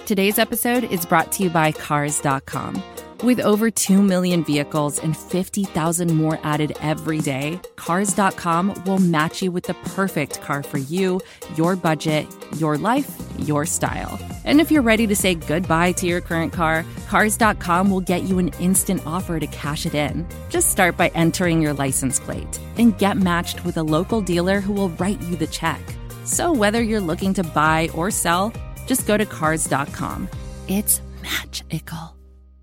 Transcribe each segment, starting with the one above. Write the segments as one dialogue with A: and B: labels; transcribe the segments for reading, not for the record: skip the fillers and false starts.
A: Today's episode is brought to you by Cars.com. With over 2 million vehicles and 50,000 more added every day, Cars.com will match you with the perfect car for you, your budget, your life, your style. And if you're ready to say goodbye to your current car, Cars.com will get you an instant offer to cash it in. Just start by entering your license plate and get matched with a local dealer who will write you the check. So whether you're looking to buy or sell, just go to Cars.com. It's magical.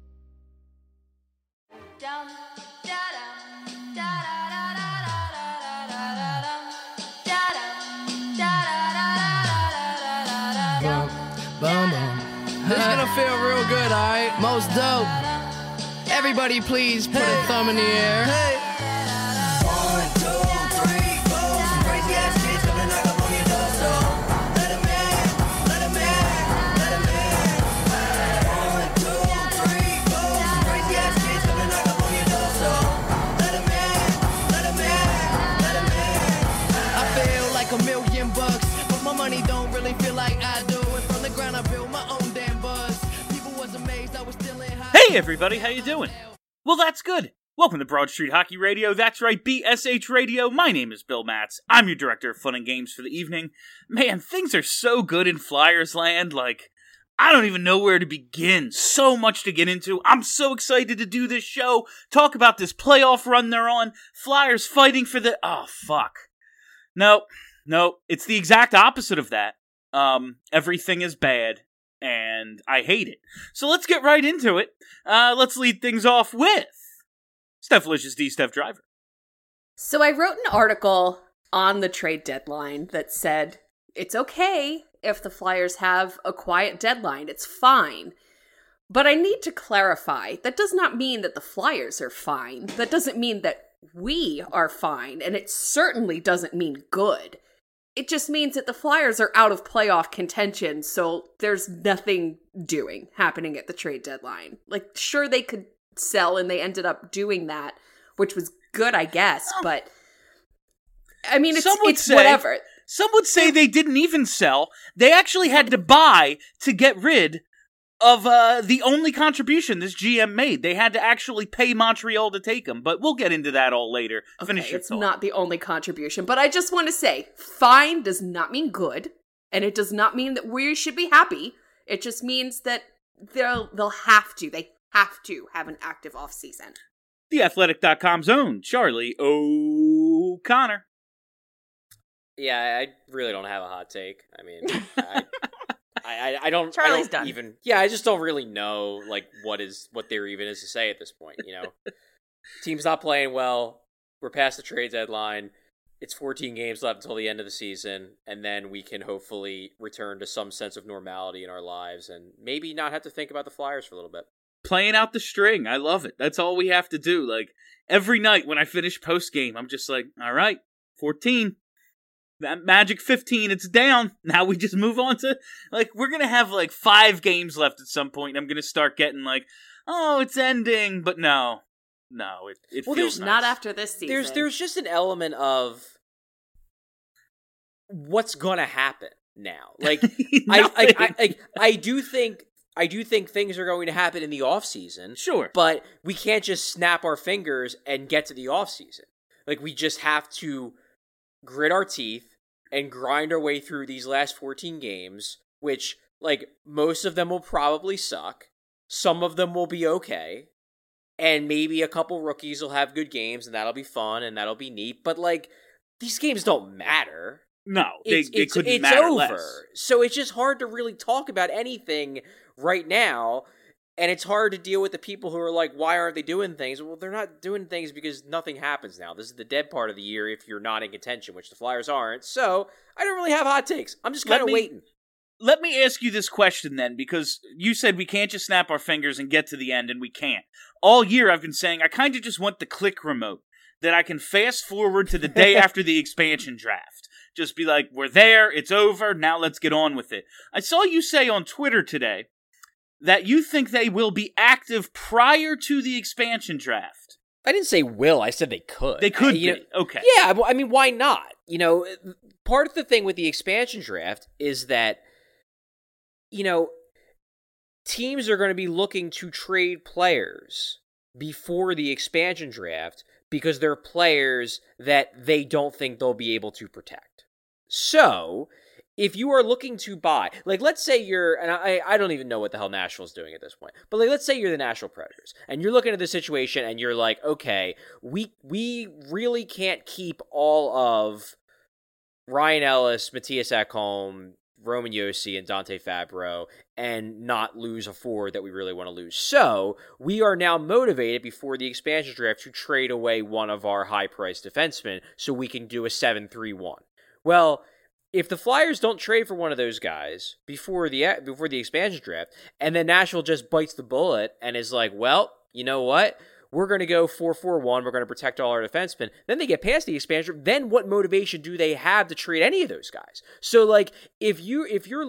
B: This is gonna feel real good, alright? Most dope. Everybody please put a thumb in the air. Hey.
C: 1, 2, 3, 4. Some crazy ass kids coming knock up on your door, so let 'em in, let 'em in, let 'em in. 1, 2, 3, 4. Some crazy ass kids coming knock up on your door, so let 'em in, let 'em in, let 'em in.
B: I feel like $1,000,000, but my money don't really feel like I do. And from the ground I built my own damn buzz. People was amazed I was still in high.
D: Hey everybody, how you doing? Well, that's good. Welcome to Broad Street Hockey Radio. That's right, BSH Radio. My name is Bill Matz. I'm your director of fun and games for the evening. Man, things are so good in Flyers land, I don't even know where to begin. So much to get into. I'm so excited to do this show, talk about this playoff run they're on, Flyers fighting for the... Oh, fuck. No, it's the exact opposite of that. Everything is bad, and I hate it. So let's get right into it. Let's lead things off with Steph Licious D. Steph Driver.
E: So I wrote an article on the trade deadline that said, it's okay if the Flyers have a quiet deadline. It's fine. But I need to clarify, that does not mean that the Flyers are fine. That doesn't mean that we are fine. And it certainly doesn't mean good. It just means that the Flyers are out of playoff contention, so there's nothing happening at the trade deadline. Sure, they could sell, and they ended up doing that, which was good, I guess, but... I mean, it's whatever.
D: Some would say they didn't even sell. They actually had to buy to get rid of the only contribution this GM made. They had to actually pay Montreal to take him, but we'll get into that all later. Finish your thought.
E: It's not the only contribution, but I just want to say, fine does not mean good, and it does not mean that we should be happy. It just means that they have to have an active offseason.
D: TheAthletic.com's own Charlie O'Connor.
F: Yeah, I really don't have a hot take. I mean, I don't.
E: Charlie's
F: I don't
E: done.
F: even. Yeah, I just don't really know what there even is to say at this point. Team's not playing well. We're past the trade deadline. It's 14 games left until the end of the season, and then we can hopefully return to some sense of normality in our lives, and maybe not have to think about the Flyers for a little bit.
D: Playing out the string, I love it. That's all we have to do. Every night when I finish post game, I'm just like, all right, 14. That magic 15, it's down. Now we just move on to, we're going to have 5 games left at some point, and I'm going to start getting oh, it's ending. But no, it feels nice.
E: Not after this season.
F: There's just an element of what's going to happen now. I do think things are going to happen in the offseason.
D: Sure.
F: But we can't just snap our fingers and get to the offseason. We just have to grit our teeth and grind our way through these last 14 games, which, most of them will probably suck. Some of them will be okay. And maybe a couple rookies will have good games, and that'll be fun, and that'll be neat. But, these games don't matter.
D: No, they couldn't
F: it's
D: matter
F: over.
D: less.
F: So it's just hard to really talk about anything right now. And it's hard to deal with the people who are why aren't they doing things? Well, they're not doing things because nothing happens now. This is the dead part of the year if you're not in contention, which the Flyers aren't. So I don't really have hot takes. I'm just kind of waiting.
D: Let me ask you this question then, because you said we can't just snap our fingers and get to the end, and we can't. All year I've been saying I kind of just want the click remote that I can fast forward to the day after the expansion draft. Just be like, we're there, it's over, now let's get on with it. I saw you say on Twitter today that you think they will be active prior to the expansion draft.
F: I didn't say will, I said they could.
D: They could be. Okay.
F: Yeah, I mean, why not? Part of the thing with the expansion draft is that, teams are going to be looking to trade players before the expansion draft because they're players that they don't think they'll be able to protect. So, if you are looking to buy, like, let's say you're, and I don't even know what the hell Nashville's doing at this point, but like, let's say you're the Nashville Predators, and you're looking at the situation, and you're like, okay, we really can't keep all of Ryan Ellis, Matthias Ekholm, Roman Josi, and Dante Fabro, and not lose a forward that we really want to lose. So, we are now motivated before the expansion draft to trade away one of our high-priced defensemen so we can do a 7-3-1. Well, if the Flyers don't trade for one of those guys before the expansion draft, and then Nashville just bites the bullet and is like, well, you know what? We're going to go 4-4-1. We're going to protect all our defensemen. Then they get past the expansion draft. Then what motivation do they have to trade any of those guys? So, like, if you're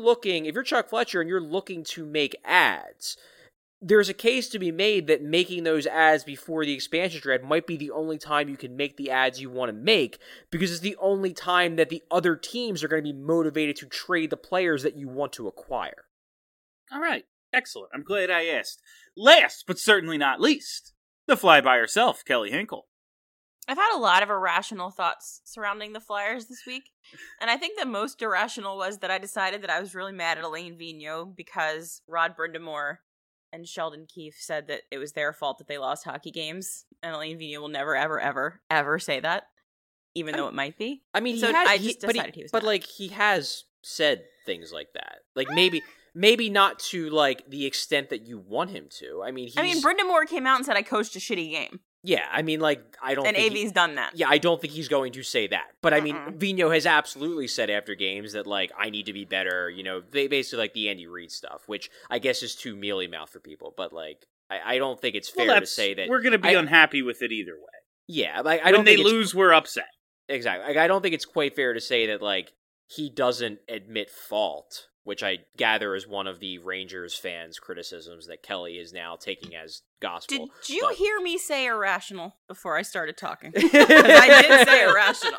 F: Chuck Fletcher and you're looking to make ads, there's a case to be made that making those ads before the expansion draft might be the only time you can make the ads you want to make, because it's the only time that the other teams are going to be motivated to trade the players that you want to acquire.
D: All right. Excellent. I'm glad I asked. Last, but certainly not least, the fly by herself, Kelly Hinkle.
G: I've had a lot of irrational thoughts surrounding the Flyers this week, and I think the most irrational was that I decided that I was really mad at Alain Vigneault because Rod Brind'Amour and Sheldon Keefe said that it was their fault that they lost hockey games, and Alain Vigneault will never, ever, ever, ever say that, even though it might be.
F: I mean,
G: I just decided he was
F: but
G: mad.
F: like, he has said things like that. Like, maybe not to, like, the extent that you want him to. I mean,
G: Brind'Amour came out and said I coached a shitty game.
F: Yeah, I mean, like, I don't
G: and
F: think...
G: AV's done that.
F: Yeah, I don't think he's going to say that. But, I mean, Vigneault has absolutely said after games that, like, I need to be better, you know, they basically, like, the Andy Reid stuff, which I guess is too mealy-mouthed for people. But, like, I don't think it's fair to say that...
D: We're going to be unhappy with it either way.
F: Yeah, like,
D: when they lose, we're upset.
F: Exactly. Like, I don't think it's quite fair to say that, like, he doesn't admit fault, which I gather is one of the Rangers fans' criticisms that Kelly is now taking as gospel.
G: Did you hear me say irrational before I started talking? Because I did say irrational.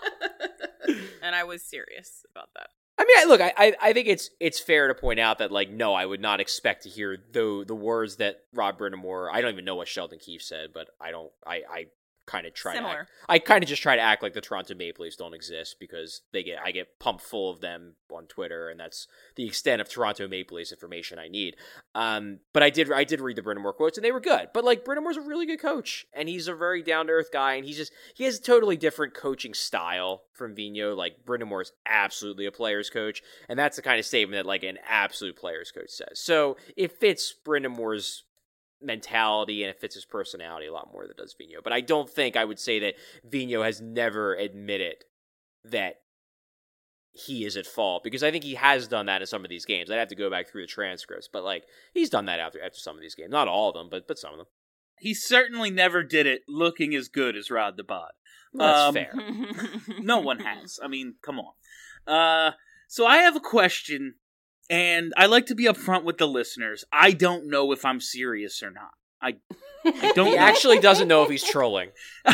G: And I was serious about that.
F: I mean, look, I think it's fair to point out that, like, no, I would not expect to hear the words that Rod Brind'Amour, I don't even know what Sheldon Keefe said, but I kind of try
G: Similar.
F: I kind of just try to act like the Toronto Maple Leafs don't exist because I get pumped full of them on Twitter, and that's the extent of Toronto Maple Leafs information I need. But I did read the Brind'Amour quotes, and they were good. But like, Brind'Amour's a really good coach, and he's a very down to earth guy, and he has a totally different coaching style from Vigneault. Like, Brind'Amour is absolutely a player's coach, and that's the kind of statement that like an absolute player's coach says. So it fits Brind'Amour's mentality, and it fits his personality a lot more than it does Vigneault. But I don't think I would say that Vigneault has never admitted that he is at fault, because I think he has done that in some of these games. I'd have to go back through the transcripts, but like, he's done that after some of these games. Not all of them, but some of them.
D: He certainly never did it looking as good as Rod the Bod.
F: Well, that's fair.
D: No one has. I mean, come on. So I have a question, and I like to be upfront with the listeners. I don't know if I'm serious or not. I don't
F: He
D: know.
F: actually doesn't know if he's trolling.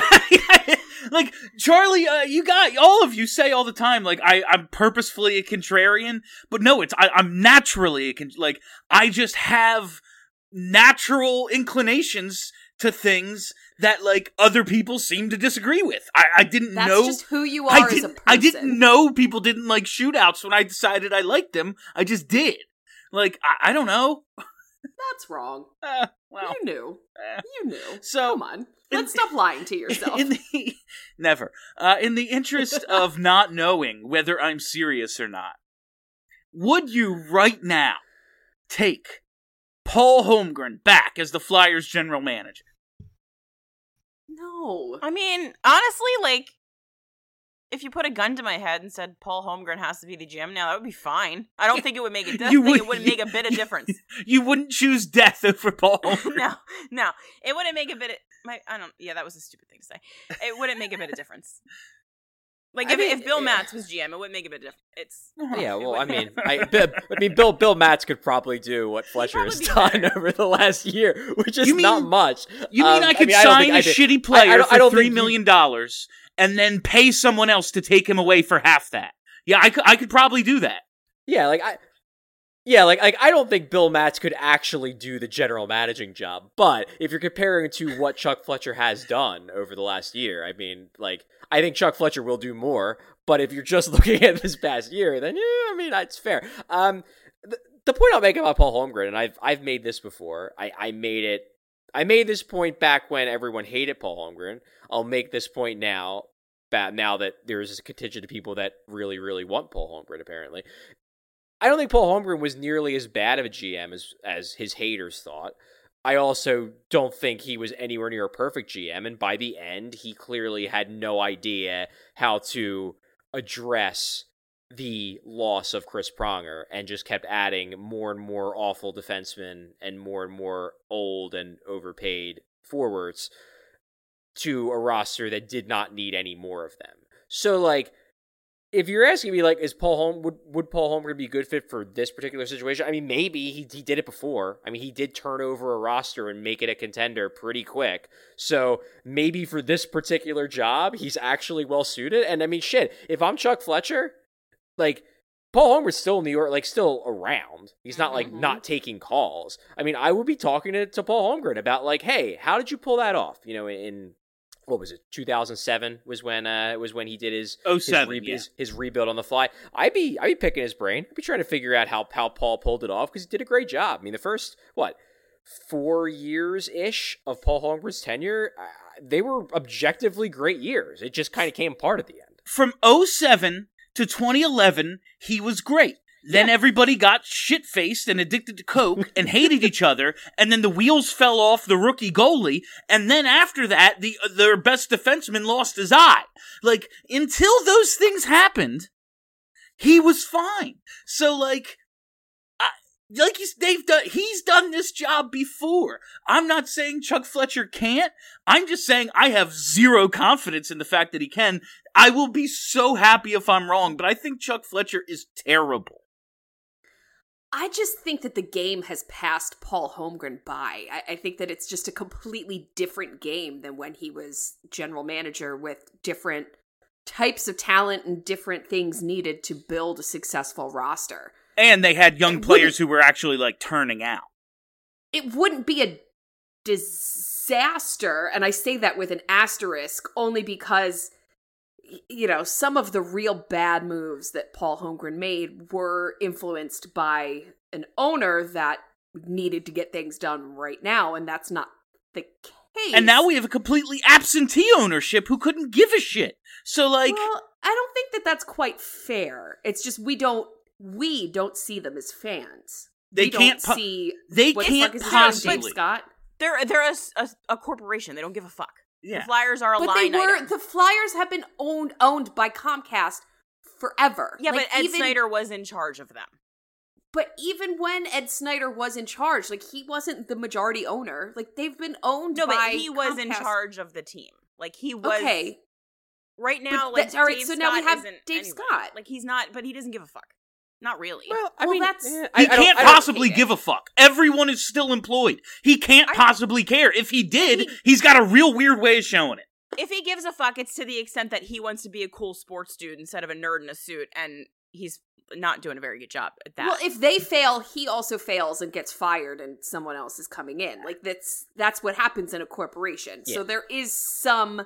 D: Like, Charlie, all of you say all the time, like, I'm purposefully a contrarian, but no, I'm naturally I just have natural inclinations to things that, like, other people seem to disagree with. I didn't know.
E: That's just who you are as a person.
D: I didn't know people didn't like shootouts when I decided I liked them. I just did. Like, I don't know.
E: That's wrong.
D: Well,
E: You knew. You knew.
D: So,
E: come on. Let's stop lying to yourself.
D: Never. In the interest of not knowing whether I'm serious or not, would you right now take Paul Holmgren back as the Flyers general manager?
E: No.
G: I mean, honestly, like, if you put a gun to my head and said Paul Holmgren has to be the GM now, that would be fine. I don't think it would make a difference. It wouldn't make a bit of difference.
D: You wouldn't choose death over Paul Holmgren.
G: No. It wouldn't make a bit of... Yeah, that was a stupid thing to say. It wouldn't make a bit of difference. Like, if Bill Matz was GM, it wouldn't make a bit of difference.
F: Yeah, well, I mean, Bill Matz could probably do what Fletcher has done over the last year, which is not much.
D: You mean I could sign a shitty player for $3 million and then pay someone else to take him away for half that? Yeah, I could probably do that.
F: Yeah, like Yeah, like I don't think Bill Matz could actually do the general managing job, but if you're comparing to what Chuck Fletcher has done over the last year, I mean, like, I think Chuck Fletcher will do more, but if you're just looking at this past year, then yeah, I mean, it's fair. The point I'll make about Paul Holmgren, and I've made this before, I made this point back when everyone hated Paul Holmgren. I'll make this point now that there's a contingent of people that really, really want Paul Holmgren, apparently. I don't think Paul Holmgren was nearly as bad of a GM as his haters thought. I also don't think he was anywhere near a perfect GM, and by the end, he clearly had no idea how to address the loss of Chris Pronger and just kept adding more and more awful defensemen and more old and overpaid forwards to a roster that did not need any more of them. So, like, if you're asking me, like, would Paul Holmgren be a good fit for this particular situation? I mean, maybe he did it before. I mean, he did turn over a roster and make it a contender pretty quick. So maybe for this particular job, he's actually well suited. And I mean, shit, if I'm Chuck Fletcher, like, Paul Holmgren's still in New York, like, still around. He's not, like, not taking calls. I mean, I would be talking to Paul Holmgren about, like, hey, how did you pull that off? You know, in what was it? 2007 was when he did his rebuild on the fly. I'd be picking his brain. I'd be trying to figure out how Paul pulled it off, because he did a great job. I mean, the first 4 years ish of Paul Holmgren's tenure, they were objectively great years. It just kind of came apart at the end.
D: From 2007 to 2011, he was great. Then everybody got shit-faced and addicted to coke and hated each other, and then the wheels fell off the rookie goalie, and then after that, their best defenseman lost his eye. Like, until those things happened, he was fine. So, like he's done this job before. I'm not saying Chuck Fletcher can't. I'm just saying I have zero confidence in the fact that he can. I will be so happy if I'm wrong, but I think Chuck Fletcher is terrible.
E: I just think that the game has passed Paul Holmgren by. I think that it's just a completely different game than when he was general manager, with different types of talent and different things needed to build a successful roster.
D: And they had young players who were actually, like, turning out.
E: It wouldn't be a disaster, and I say that with an asterisk, only because, you know, some of the real bad moves that Paul Holmgren made were influenced by an owner that needed to get things done right now, and that's not the case.
D: And now we have a completely absentee ownership who couldn't give a shit. So, like...
E: Well, I don't think that that's quite fair. It's just we don't see them as fans.
D: They can't possibly.
E: Dave Scott.
G: They're a corporation. They don't give a fuck.
D: Yeah.
G: The Flyers are a
E: but
G: line item.
E: The Flyers have been owned by Comcast forever.
G: Yeah, like, but Ed Snyder was in charge of them.
E: But even when Ed Snyder was in charge, like, he wasn't the majority owner. Like, they've been owned by
G: but he was
E: Comcast.
G: In charge of the team. Like, he was.
E: Okay.
G: Right now,
E: but
G: like,
E: all right,
G: Dave
E: so
G: Scott
E: now we have
G: isn't
E: Dave
G: anyway.
E: Scott.
G: Like, he's not, but he doesn't give a fuck. Not really.
F: Well, I
E: Well,
F: mean,
E: that's-
D: He can't possibly give a fuck. Everyone is still employed. He can't possibly care. If he did, he's got a real weird way of showing it.
G: If he gives a fuck, it's to the extent that he wants to be a cool sports dude instead of a nerd in a suit, and he's not doing a very good job at that.
E: Well, if they fail, he also fails and gets fired, and someone else is coming in. Like, that's what happens in a corporation.
F: Yeah.
E: So there is some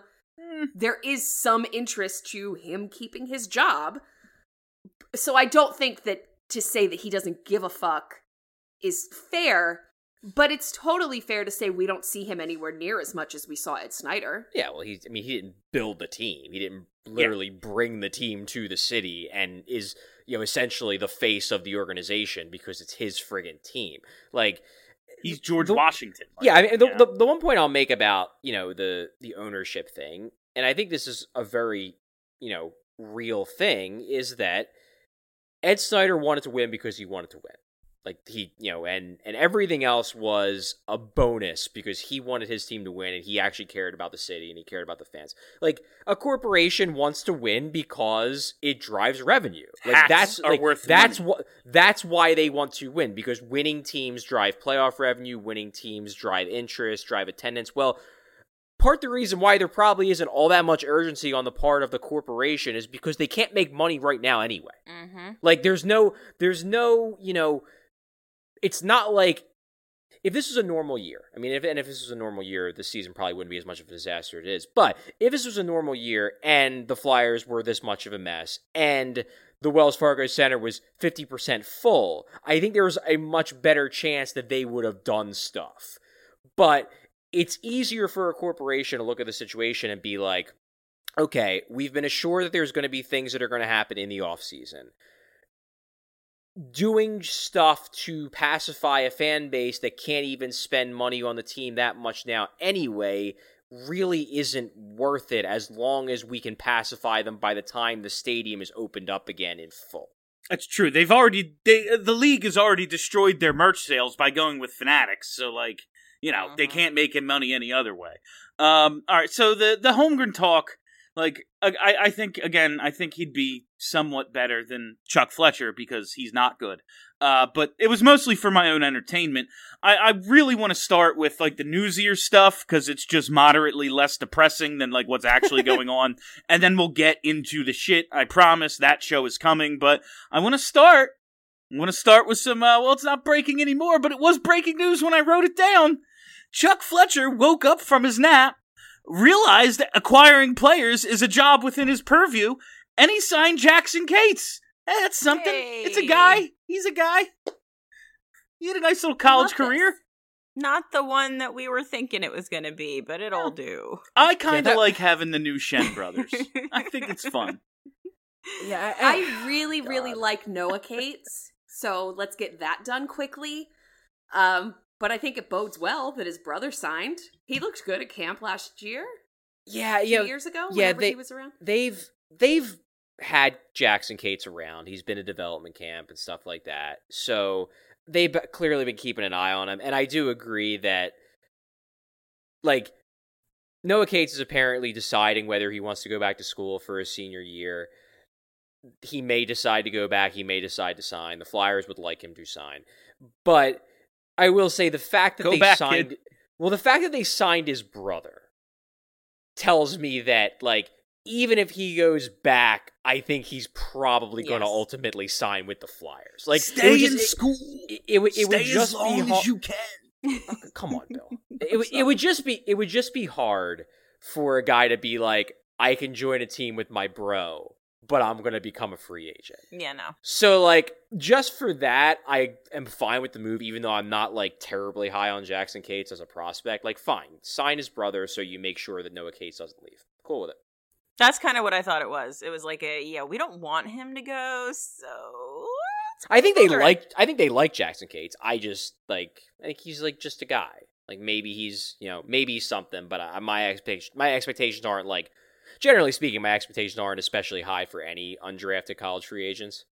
E: interest to him keeping his job. So I don't think that to say that he doesn't give a fuck is fair, but it's totally fair to say we don't see him anywhere near as much as we saw Ed Snyder.
F: Yeah, well, he didn't build the team. He didn't literally bring the team to the city and is, you know, essentially the face of the organization because it's his friggin' team. Like,
D: he's George Washington. Like,
F: yeah, I mean, the one point I'll make about, you know, the ownership thing, and I think this is a very, you know, real thing, is that Ed Snyder wanted to win because he wanted to win. Like, he, you know, and everything else was a bonus because he wanted his team to win and he actually cared about the city and he cared about the fans. Like, a corporation wants to win because it drives revenue. Like,
D: Hats are worth money.
F: That's why they want to win, because winning teams drive playoff revenue, winning teams drive interest, drive attendance. Well, part of the reason why there probably isn't all that much urgency on the part of the corporation is because they can't make money right now anyway.
G: Mm-hmm.
F: Like, there's no, you know, it's not like if this was a normal year. I mean, if this was a normal year, the season probably wouldn't be as much of a disaster as it is. But if this was a normal year and the Flyers were this much of a mess and the Wells Fargo Center was 50% full, I think there was a much better chance that they would have done stuff. But it's easier for a corporation to look at the situation and be like, okay, we've been assured that there's going to be things that are going to happen in the offseason. Doing stuff to pacify a fan base that can't even spend money on the team that much now anyway really isn't worth it as long as we can pacify them by the time the stadium is opened up again in full.
D: That's true. The league has already destroyed their merch sales by going with Fanatics, so they can't make money any other way. All right, so the Holmgren talk, I think he'd be somewhat better than Chuck Fletcher because he's not good. But it was mostly for my own entertainment. I really want to start with the newsier stuff because it's just moderately less depressing than what's actually going on. And then we'll get into the shit. I promise that show is coming. But I want to start with some, it's not breaking anymore, but it was breaking news when I wrote it down. Chuck Fletcher woke up from his nap, realized that acquiring players is a job within his purview, and he signed Jackson Cates. Hey, that's something.
G: Hey.
D: It's a guy. He's a guy. He had a nice little college career.
G: Not the one that we were thinking it was going to be, but it'll do.
D: I kind of like having the new Shen brothers. I think it's fun.
E: Yeah, I really, really like Noah Cates, so let's get that done quickly. But I think it bodes well that his brother signed. He looked good at camp last year.
F: Yeah,
E: 2 years ago, whenever he was around.
F: They've had Jackson Cates around. He's been at development camp and stuff like that. So they've clearly been keeping an eye on him. And I do agree that, Noah Cates is apparently deciding whether he wants to go back to school for his senior year. He may decide to go back. He may decide to sign. The Flyers would like him to sign. But I will say the fact that the fact that they signed his brother tells me that, even if he goes back, I think he's probably going to ultimately sign with the Flyers.
D: Stay in school.
F: It would
D: Stay
F: just
D: as long as you can.
F: Come on, Bill. It would just be hard for a guy to be like, I can join a team with my bro, but I'm going to become a free agent.
G: Yeah, no.
F: So, just for that, I am fine with the move, even though I'm not, terribly high on Jackson Cates as a prospect. Fine. Sign his brother so you make sure that Noah Cates doesn't leave. Cool with it.
G: That's kind of what I thought it was. It was we don't want him to go, so
F: I think they like Jackson Cates. I think he's just a guy. Maybe he's something, but my expectations aren't generally speaking, my expectations aren't especially high for any undrafted college free agents.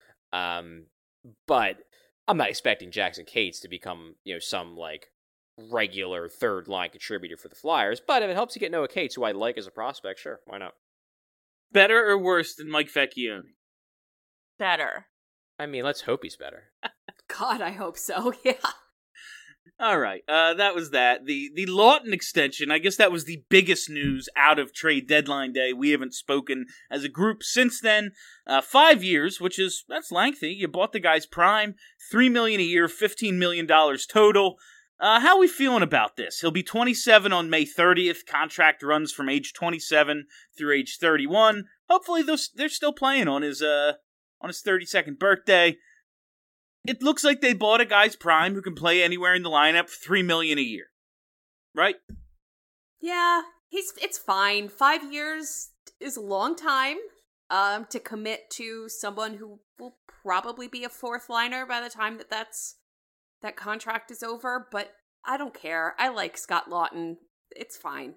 F: But I'm not expecting Jackson Cates to become, some regular third line contributor for the Flyers. But if it helps you get Noah Cates, who I like as a prospect, sure, why not?
D: Better or worse than Mike Vecchione?
G: Better.
F: I mean, let's hope he's better.
E: God, I hope so. Yeah.
D: All right, that was that. The Laughton extension, I guess that was the biggest news out of trade deadline day. We haven't spoken as a group since then. 5 years, that's lengthy. You bought the guy's prime, $3 million a year, $15 million total. How are we feeling about this? He'll be 27 on May 30th. Contract runs from age 27 through age 31. Hopefully they're still playing on his 32nd birthday. It looks like they bought a guy's prime who can play anywhere in the lineup for $3 million a year. Right?
E: Yeah, it's fine. 5 years is a long time to commit to someone who will probably be a fourth liner by the time that contract is over, but I don't care. I like Scott Laughton. It's fine.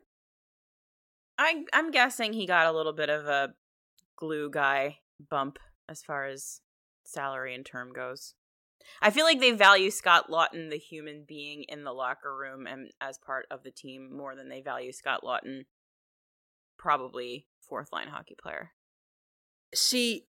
G: I'm guessing he got a little bit of a glue guy bump as far as salary and term goes. I feel like they value Scott Laughton, the human being in the locker room and as part of the team, more than they value Scott Laughton, probably fourth line hockey player.
F: See,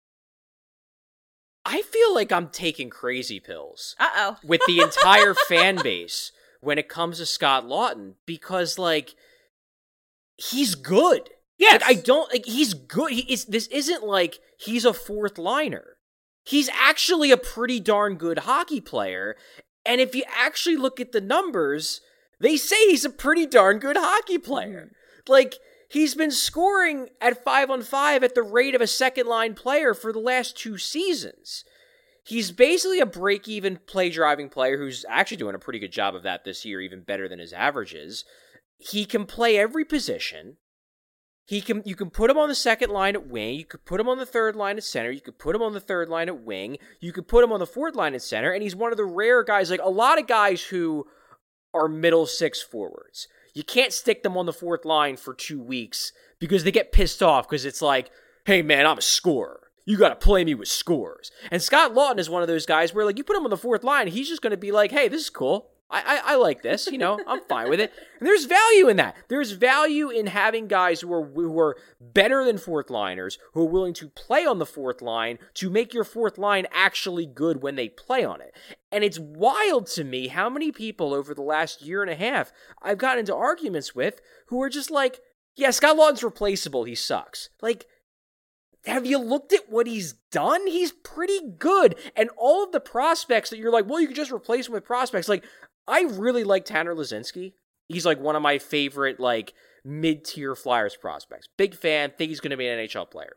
F: I feel like I'm taking crazy pills.
G: Uh-oh.
F: With the entire fan base when it comes to Scott Laughton, because he's good.
D: Yes.
F: He's good. This isn't he's a fourth liner. He's actually a pretty darn good hockey player, And if you actually look at the numbers, they say he's a pretty darn good hockey player. Like, he's been scoring at 5-on-5 at the rate of a second-line player for the last 2 seasons. He's basically a break-even play-driving player who's actually doing a pretty good job of that this year, even better than his averages. He can play every position. You can put him on the second line at wing. You could put him on the third line at center. You could put him on the third line at wing. You could put him on the fourth line at center. And he's one of the rare guys, like a lot of guys who are middle six forwards. You can't stick them on the fourth line for 2 weeks because they get pissed off because it's like, hey man, I'm a scorer. You got to play me with scores. And Scott Laughton is one of those guys where, like, you put him on the fourth line, he's just going to be like, hey, this is cool. I like this, I'm fine with it. And there's value in that. There's value in having guys who are better than fourth liners, who are willing to play on the fourth line to make your fourth line actually good when they play on it. And it's wild to me how many people over the last year and a half I've gotten into arguments with who are just like, yeah, Scott Laughton's replaceable. He sucks. Like, have you looked at what he's done? He's pretty good. And all of the prospects that you're like, well, you could just replace him with prospects. Like, I really like Tanner Laczynski. He's like one of my favorite, like, mid-tier Flyers prospects. Big fan, think he's going to be an NHL player.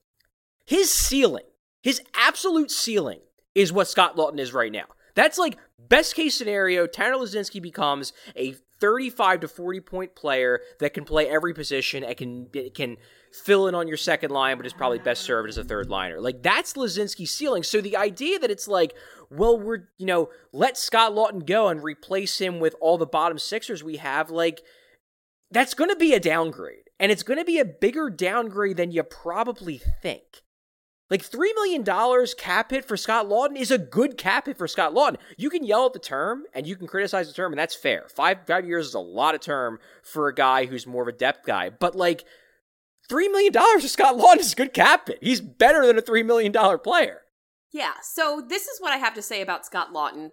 F: His ceiling, his absolute ceiling, is what Scott Laughton is right now. That's like, best case scenario, Tanner Laczynski becomes a 35 to 40 point player that can play every position and can fill in on your second line, but is probably best served as a third liner. Like, that's Laczynski's ceiling. So the idea that it's like, well, we're, let Scott Laughton go and replace him with all the bottom sixers we have, like, that's going to be a downgrade. And it's going to be a bigger downgrade than you probably think. Like, $3 million cap hit for Scott Laughton is a good cap hit for Scott Laughton. You can yell at the term, and you can criticize the term, and that's fair. 5 years is a lot of term for a guy who's more of a depth guy. But, like, $3 million for Scott Laughton is a good cap hit. He's better than a $3 million player.
E: Yeah, so this is what I have to say about Scott Laughton.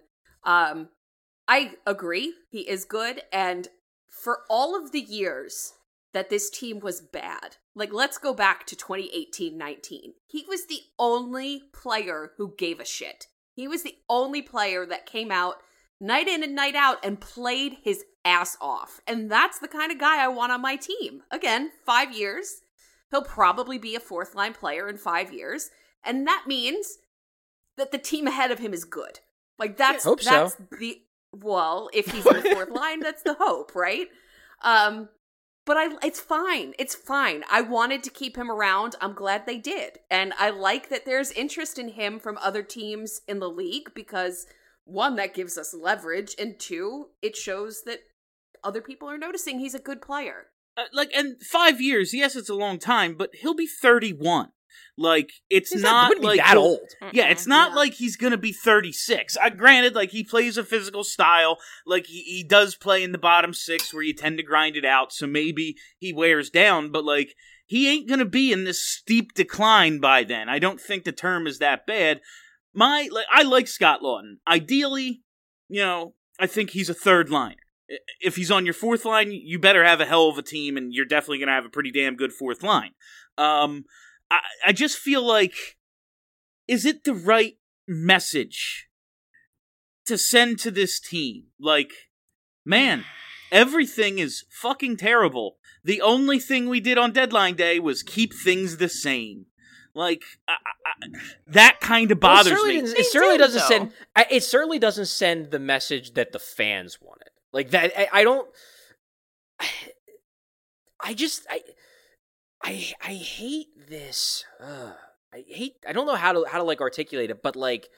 E: I agree, he is good, and for all of the years that this team was bad, like, let's go back to 2018-19. He was the only player who gave a shit. He was the only player that came out night in and night out and played his ass off. And that's the kind of guy I want on my team. Again, 5 years. He'll probably be a fourth line player in 5 years. And that means that the team ahead of him is good. Like, that's
F: hope so.
E: Well, if he's in the fourth line, that's the hope, right? But it's fine. It's fine. I wanted to keep him around. I'm glad they did. And I like that there's interest in him from other teams in the league because, 1, that gives us leverage, and 2, it shows that other people are noticing he's a good player.
D: And 5 years, yes, it's a long time, but he'll be 31. Like, it's not like
F: that old.
D: Yeah, it's not like he's gonna be 36. Granted, like, he plays a physical style, like he does play in the bottom six where you tend to grind it out, so maybe he wears down, but like, he ain't gonna be in this steep decline by then. I don't think the term is that bad. I like Scott Laughton. Ideally, I think he's a third liner. If he's on your fourth line, you better have a hell of a team, and you're definitely gonna have a pretty damn good fourth line. I just feel like, is it the right message to send to this team? Like, man, everything is fucking terrible. The only thing we did on deadline day was keep things the same. Like, that kind of bothers me.
F: It certainly doesn't send the message that the fans wanted. Like, that, I hate this. I don't know how to like articulate it, but like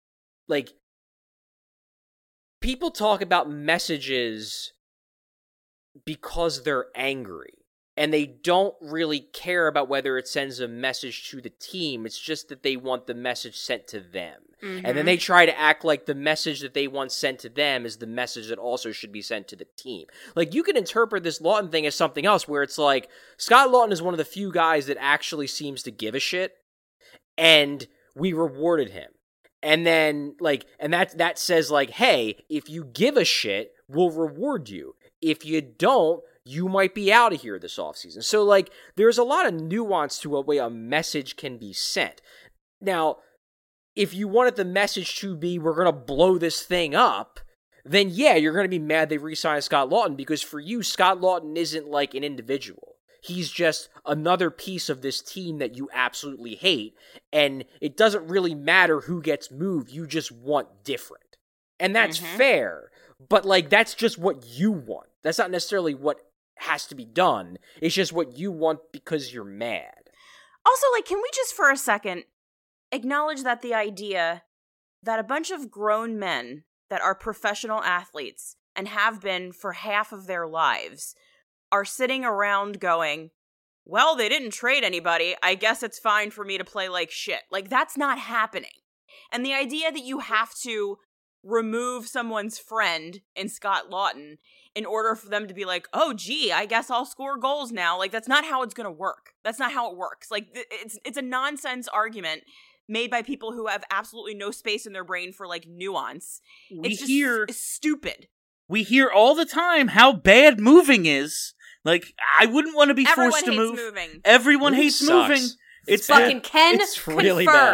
F: people talk about messages because they're angry, and they don't really care about whether it sends a message to the team. It's just that they want the message sent to them. Mm-hmm. And then they try to act like the message that they want sent to them is the message that also should be sent to the team. Like, you can interpret this Laughton thing as something else, where it's like, Scott Laughton is one of the few guys that actually seems to give a shit, and we rewarded him. And then, like, and that says, like, hey, if you give a shit, we'll reward you. If you don't, you might be out of here this offseason. So, like, there's a lot of nuance to a way a message can be sent. Now, if you wanted the message to be, we're going to blow this thing up, then yeah, you're going to be mad they re-signed Scott Lawton, because for you, Scott Lawton isn't like an individual. He's just another piece of this team that you absolutely hate, and it doesn't really matter who gets moved, you just want different. And that's fair, but like, that's just what you want. That's not necessarily what has to be done. It's just what you want because you're mad.
G: Also, like, can we just for a second acknowledge that the idea that a bunch of grown men that are professional athletes and have been for half of their lives are sitting around going, well, they didn't trade anybody, I guess it's fine for me to play like shit. Like, that's not happening. And the idea that you have to remove someone's friend in Scott Lawton in order for them to be like, oh, gee, I guess I'll score goals now. Like, that's not how it's going to work. That's not how it works. Like, it's a nonsense argument made by people who have absolutely no space in their brain for, like, nuance. It's stupid.
D: We hear all the time how bad moving is. Like, I wouldn't want to be forced to move.
G: Moving.
D: Everyone hates
F: sucks.
D: moving.
E: It's fucking Ken.
F: It's really
E: confirm.
F: bad.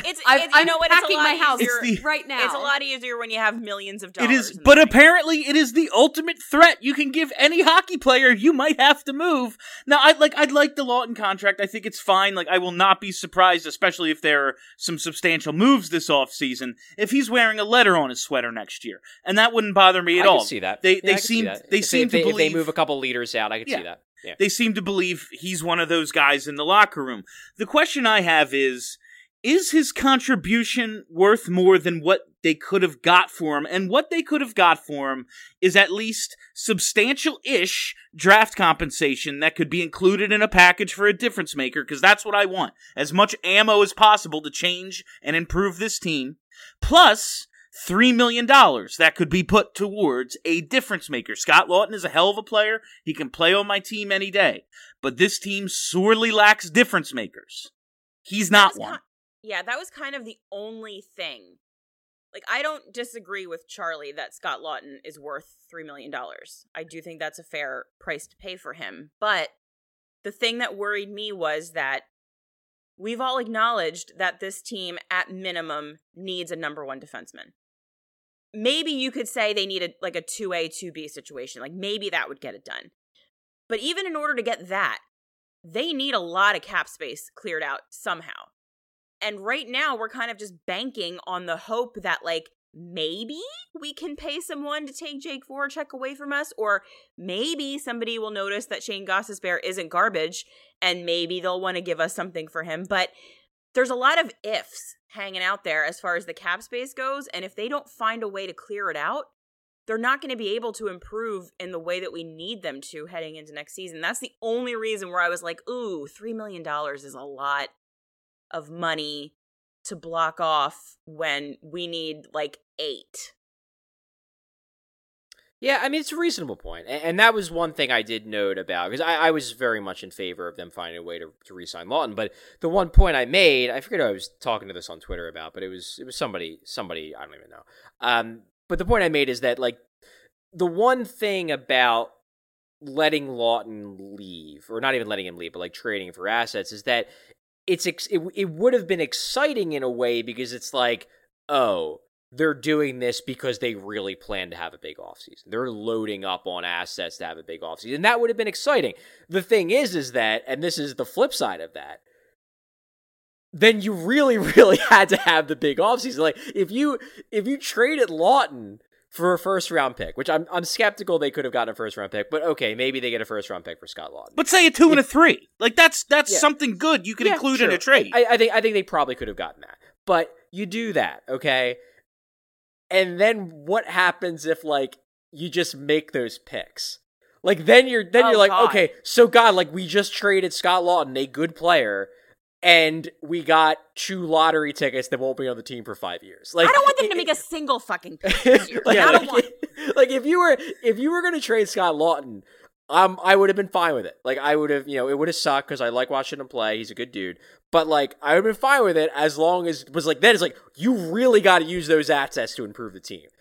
E: I'm
G: you know what? It's a
E: packing
G: lot
E: my house
G: easier.
E: right now.
G: It's a lot easier when you have millions of dollars.
D: It is,
G: in the
D: but
G: bank.
D: apparently it is the ultimate threat you can give any hockey player. You might have to move. Now, I'd like the Lawton contract. I think it's fine. Like, I will not be surprised, especially if there are some substantial moves this offseason, if he's wearing a letter on his sweater next year. And that wouldn't bother me at all.
F: I can see that.
D: They
F: I can
D: seem
F: see that.
D: they seem to believe
F: if they move a couple leaders out, I can see that. Yeah.
D: They seem to believe he's one of those guys in the locker room. The question I have is his contribution worth more than what they could have got for him? And what they could have got for him is at least substantial-ish draft compensation that could be included in a package for a difference maker, because that's what I want. As much ammo as possible to change and improve this team. Plus $3 million that could be put towards a difference maker. Scott Lawton is a hell of a player. He can play on my team any day. But this team sorely lacks difference makers. He's not one.
G: That was kind of the only thing. Like, I don't disagree with Charlie that Scott Lawton is worth $3 million. I do think that's a fair price to pay for him. But the thing that worried me was that we've all acknowledged that this team, at minimum, needs a number one defenseman. Maybe you could say they need a 2A, 2B situation. Like, maybe that would get it done. But even in order to get that, they need a lot of cap space cleared out somehow. And right now, we're kind of just banking on the hope that, like, maybe we can pay someone to take Jake Voracek away from us, or maybe somebody will notice that Shane Gostisbehere isn't garbage, and maybe they'll want to give us something for him. But there's a lot of ifs hanging out there as far as the cap space goes, and if they don't find a way to clear it out, they're not going to be able to improve in the way that we need them to heading into next season. That's the only reason where I was like, ooh, $3 million is a lot of money to block off when we need like 8.
F: Yeah, I mean, it's a reasonable point. And that was one thing I did note about, because I was very much in favor of them finding a way to re-sign Lawton. But the one point I made, I forget who I was talking to this on Twitter about, but it was somebody, I don't even know. But the point I made is that, like, the one thing about letting Lawton leave, or not even letting him leave, but like trading for assets, is that it would have been exciting in a way, because it's like, oh, they're doing this because they really plan to have a big offseason. They're loading up on assets to have a big offseason. And that would have been exciting. The thing is that, and this is the flip side of that, then you really, really had to have the big offseason. Like, if you traded Lawton for a first-round pick, which I'm skeptical they could have gotten a first-round pick, but okay, maybe they get a first-round pick for Scott Lawton.
D: But say a 2 and a 3. Like, that's something good you could include in a trade.
F: I think they probably could have gotten that. But you do that, okay? And then what happens if, like, you just make those picks? Like, then you're like, God. Okay, so God, like, we just traded Scott Lawton, a good player, and we got 2 lottery tickets that won't be on the team for 5 years. Like,
G: I don't want them to make a single fucking pick this year.
F: Like,
G: I don't want.
F: Like, if you were going to trade Scott Lawton, I would have been fine with it. Like, I would have, it would have sucked because I like watching him play. He's a good dude. But, like, I would have been fine with it as long as it was like, then it's like, you really got to use those assets to improve the team.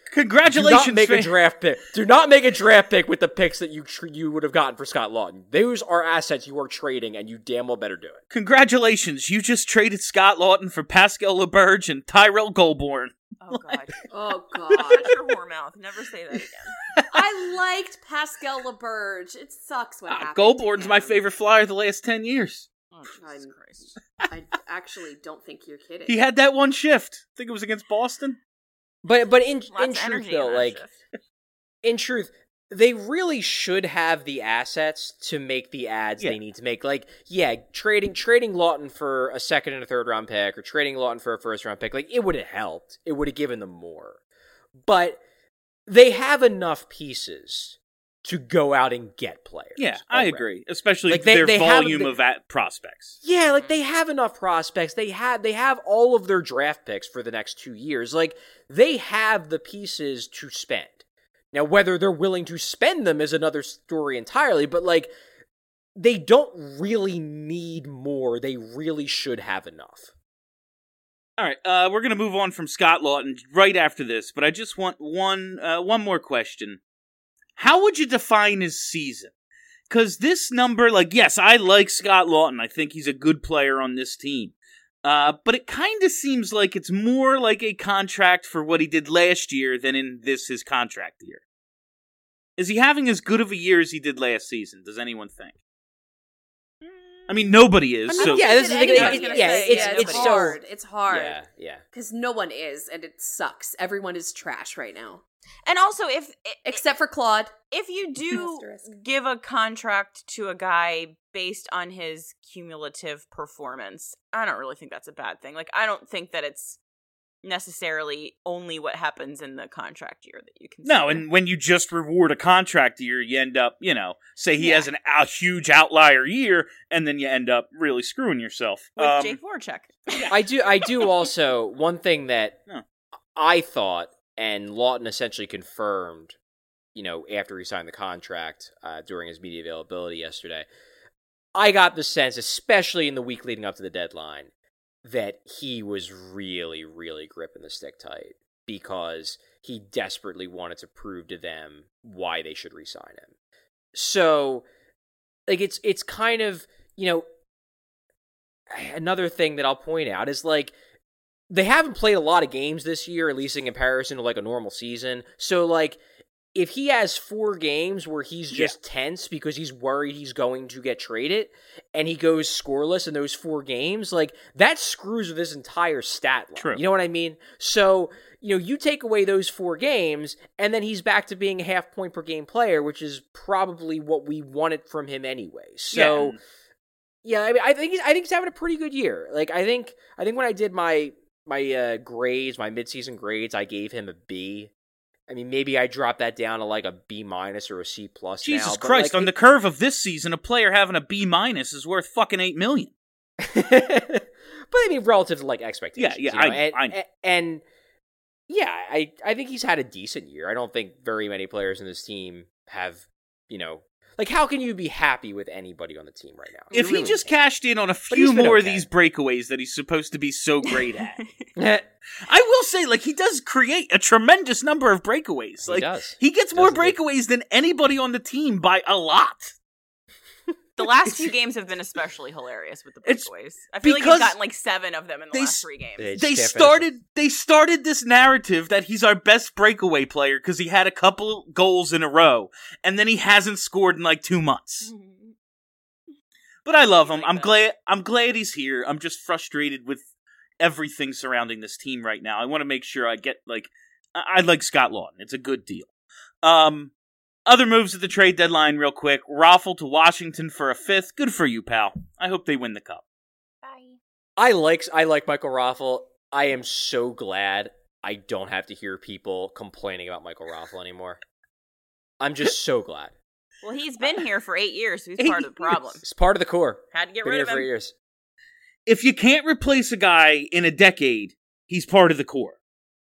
D: Congratulations,
F: Do not make a draft pick. Do not make a draft pick with the picks that you would have gotten for Scott Lawton. Those are assets you are trading, and you damn well better do it.
D: Congratulations, you just traded Scott Lawton for Pascal LeBurge and Tyrell Goulbourne.
G: Oh god.
E: Oh God.
G: Shut your whore mouth. Never say that again.
E: I liked Pascal LeBurge. It sucks what happened.
D: Goulbourne's
E: to
D: my
E: him.
D: favorite flyer the last 10 years.
G: Oh, Jesus Christ.
E: I actually don't think you're kidding.
D: He had that one shift. I think it was against Boston.
F: But in
G: Lots of
F: truth,
G: energy
F: though,
G: in that
F: like
G: shift.
F: in truth, they really should have the assets to make the ads
D: Yeah.
F: they need to make. Like, yeah, trading Lawton for a second and a third round pick, or trading Lawton for a first round pick, like it would have helped. It would have given them more. But they have enough pieces to go out and get players.
D: Yeah, I
F: already.
D: agree. Especially
F: Like,
D: their
F: they have-
D: volume of prospects.
F: Yeah, like they have enough prospects. They have all of their draft picks for the next 2 years. Like they have the pieces to spend. Now, whether they're willing to spend them is another story entirely, but like they don't really need more. They really should have enough.
D: All right, we're going to move on from Scott Lawton right after this, but I just want one more question. How would you define his season? Because this number, like, yes, I like Scott Lawton. I think he's a good player on this team. But it kind of seems like it's more like a contract for what he did last year than in his contract year. Is he having as good of a year as he did last season? Does anyone think? I mean, nobody is.
F: I mean,
D: So
F: yeah, this is the thing.
E: Anybody's
G: gonna
F: Yeah,
G: say,
F: it's
G: nobody.
F: so
E: hard. It's hard.
F: Yeah.
E: Because no one is, and it sucks. Everyone is trash right now.
G: And also,
E: Except for Claude.
G: if you do
E: Asterisk.
G: give a contract to a guy based on his cumulative performance, I don't really think that's a bad thing. Like, I don't think that it's necessarily only what happens in the contract year that you can
D: No, and when you just reward a contract year, you end up, say he has a huge outlier year, and then you end up really screwing yourself.
G: with Jake Voracek.
F: I do also, one thing that
D: Yeah.
F: I thought, and Lawton essentially confirmed, after he signed the contract during his media availability yesterday, I got the sense, especially in the week leading up to the deadline, that he was really, really gripping the stick tight because he desperately wanted to prove to them why they should re-sign him. So, like, it's kind of, another thing that I'll point out is, like, they haven't played a lot of games this year, at least in comparison to, like, a normal season. So, like, if he has 4 games where he's just tense because he's worried he's going to get traded, and he goes scoreless in those 4 games, like, that screws with his entire stat line.
D: True.
F: You know what I mean? So, you take away those 4 games, and then he's back to being a half point per game player, which is probably what we wanted from him anyway. So, yeah, I mean, I think he's having a pretty good year. Like, I think when I did my grades, my midseason grades, I gave him a B. I mean, maybe I dropped that down to like a B- or a C+
D: Jesus
F: now. but,
D: Christ,
F: like,
D: on the curve of this season, a player having a B- is worth fucking $8 million.
F: but I mean, relative to like expectations.
D: Yeah, I know.
F: And yeah, I think he's had a decent year. I don't think very many players in this team have, like, how can you be happy with anybody on the team right now?
D: If
F: You really
D: he just
F: can't.
D: cashed in on a
F: he's
D: few
F: been
D: more of
F: okay.
D: these breakaways that he's supposed to be so great at. I will say, like, he does create a tremendous number of breakaways.
F: He
D: Like,
F: does.
D: he gets
F: He
D: more
F: does indeed.
D: breakaways than anybody on the team by a lot.
G: The last few games have been especially hilarious with the
D: It's
G: breakaways. I feel like
D: because
G: he's gotten like 7 of them in the
D: they
G: last
D: s-
G: 3 games.
F: They
D: They
F: just can't finish
D: started this narrative that he's our best breakaway player because he had a couple goals in a row, and then he hasn't scored in like 2 months. But I love him.
G: Like
D: I'm glad he's here. I'm just frustrated with everything surrounding this team right now. I want to make sure I get, like, I like Scott Lawton. It's a good deal. Other moves at the trade deadline real quick. Raffle to Washington for a 5th. Good for you, pal. I hope they win the cup.
G: Bye.
F: I like Michael Raffle. I am so glad I don't have to hear people complaining about Michael Raffle anymore. I'm just so glad.
G: Well, he's been here for 8 years, so he's part of the problem.
F: It's part of the core.
G: Had to get
F: Been
G: rid
F: here
G: of
F: for 8
G: him.
F: years.
D: If you can't replace a guy in a decade, he's part of the core.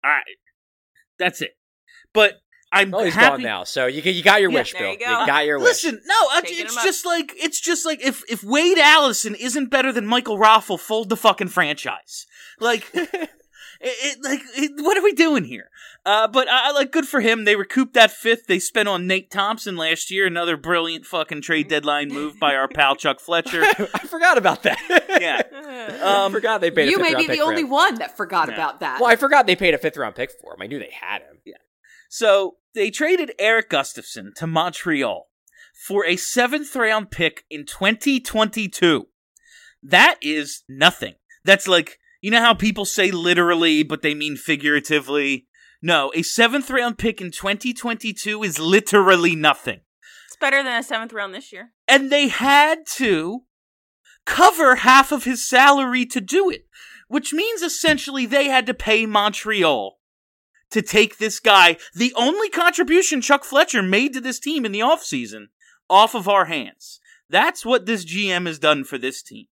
D: That's it. But I'm
F: Oh, he's
D: happy.
F: gone now. So you got your
D: Yeah,
F: wish,
G: there
F: Bill.
G: you go.
F: got your wish.
D: Listen, no,
G: Taking
D: it's
G: him up.
D: just like if Wade Allison isn't better than Michael Raffle, fold the fucking franchise. Like, What are we doing here? But I like, good for him. They recouped that fifth they spent on Nate Thompson last year. Another brilliant fucking trade deadline move by our pal Chuck Fletcher.
F: I forgot about that.
D: Yeah.
F: I forgot they paid a
E: You
F: fifth
E: may
F: round
E: be
F: pick
E: the
F: for
E: only
F: him.
E: one that forgot
D: Yeah.
E: about that.
F: Well, I forgot they paid a 5th round pick for him. I knew they had him.
D: Yeah. So they traded Eric Gustafson to Montreal for a 7th round pick in 2022. That is nothing. That's like, you know how people say literally, but they mean figuratively? No, a 7th round pick in 2022 is literally nothing.
G: It's better than a 7th round this year.
D: And they had to cover half of his salary to do it, which means essentially they had to pay Montreal to take this guy, the only contribution Chuck Fletcher made to this team in the offseason, off of our hands. That's what this GM has done for this team.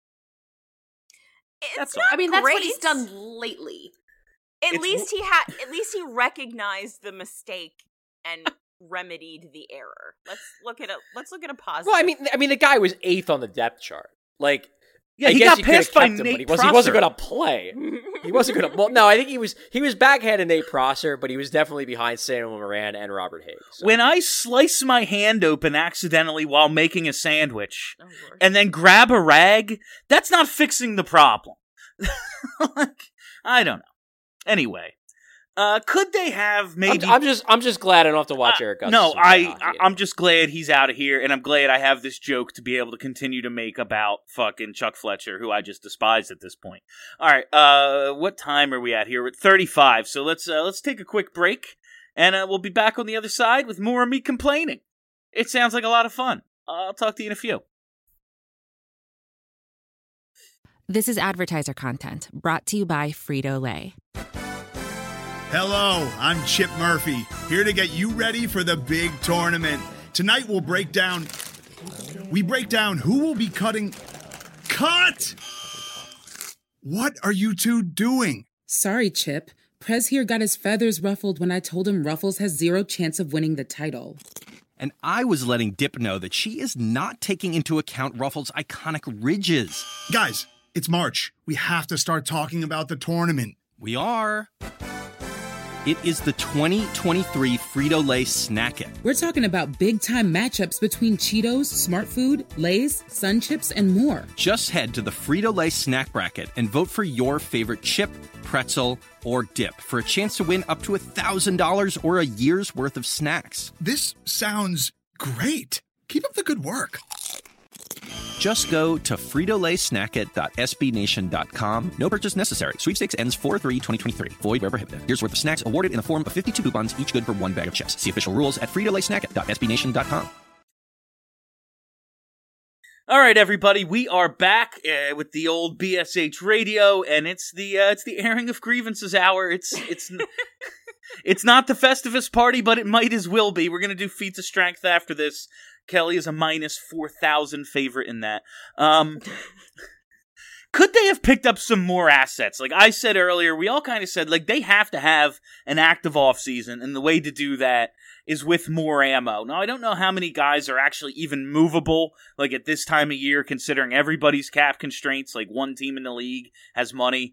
G: It's
D: all.
G: not
E: I mean, that's what
G: great.
E: he's done lately.
G: At least he recognized the mistake and remedied the error. Let's look at a positive.
F: Well, I mean, the guy was 8th on the depth chart. Like,
D: Yeah,
F: I
D: he
F: guess
D: got
F: you could've
D: passed by
F: kept him,
D: Nate
F: but he wasn't
D: Prosser.
F: going to play. He wasn't going to. Well, no, I think he was backhanded Nate Prosser, but he was definitely behind Samuel Moran and Robert Higgs. So.
D: When I slice my hand open accidentally while making a sandwich
G: Oh, Lord.
D: and then grab a rag, that's not fixing the problem. Like, I don't know. Anyway, could they have maybe...
F: I'm just glad I don't have to watch Eric Gustafson.
D: No,
F: play hockey
D: I'm
F: anymore.
D: just glad he's out of here, and I'm glad I have this joke to be able to continue to make about fucking Chuck Fletcher, who I just despise at this point. All right, what time are we at here? We're at 35, so let's take a quick break, and we'll be back on the other side with more of me complaining. It sounds like a lot of fun. I'll talk to you in a few.
A: This is advertiser content brought to you by Frito-Lay.
H: Hello, I'm Chip Murphy, here to get you ready for the big tournament. Tonight we'll break down who will be cutting... Cut! What are you two doing?
I: Sorry, Chip. Prez here got his feathers ruffled when I told him Ruffles has 0 chance of winning the title.
J: And I was letting Dip know that she is not taking into account Ruffles' iconic ridges.
H: Guys, it's March. We have to start talking about the tournament.
J: We are. It is the 2023 Frito-Lay Snack It.
I: We're talking about big-time matchups between Cheetos, Smart Food, Lay's, Sun Chips, and more.
J: Just head to the Frito-Lay Snack Bracket and vote for your favorite chip, pretzel, or dip for a chance to win up to $1,000 or a year's worth of snacks.
H: This sounds great. Keep up the good work.
J: Just go to fritolaysnackit.sbnation.com. No purchase necessary. Sweepstakes ends 4/3/2023. Void where prohibited. Here's worth of snacks awarded in the form of 52 coupons, each good for 1 bag of chips. See official rules at fritolaysnackit.sbnation.com.
D: All right, everybody, we are back with the old BSH radio, and it's the airing of grievances hour. It's it's not the Festivus party, but it might as well be. We're gonna do feats of strength after this. Kelly is a minus 4,000 favorite in that. Could they have picked up some more assets? Like I said earlier, we all kind of said, like, they have to have an active offseason, and the way to do that is with more ammo. Now, I don't know how many guys are actually even movable, like, at this time of year, considering everybody's cap constraints. Like, one team in the league has money,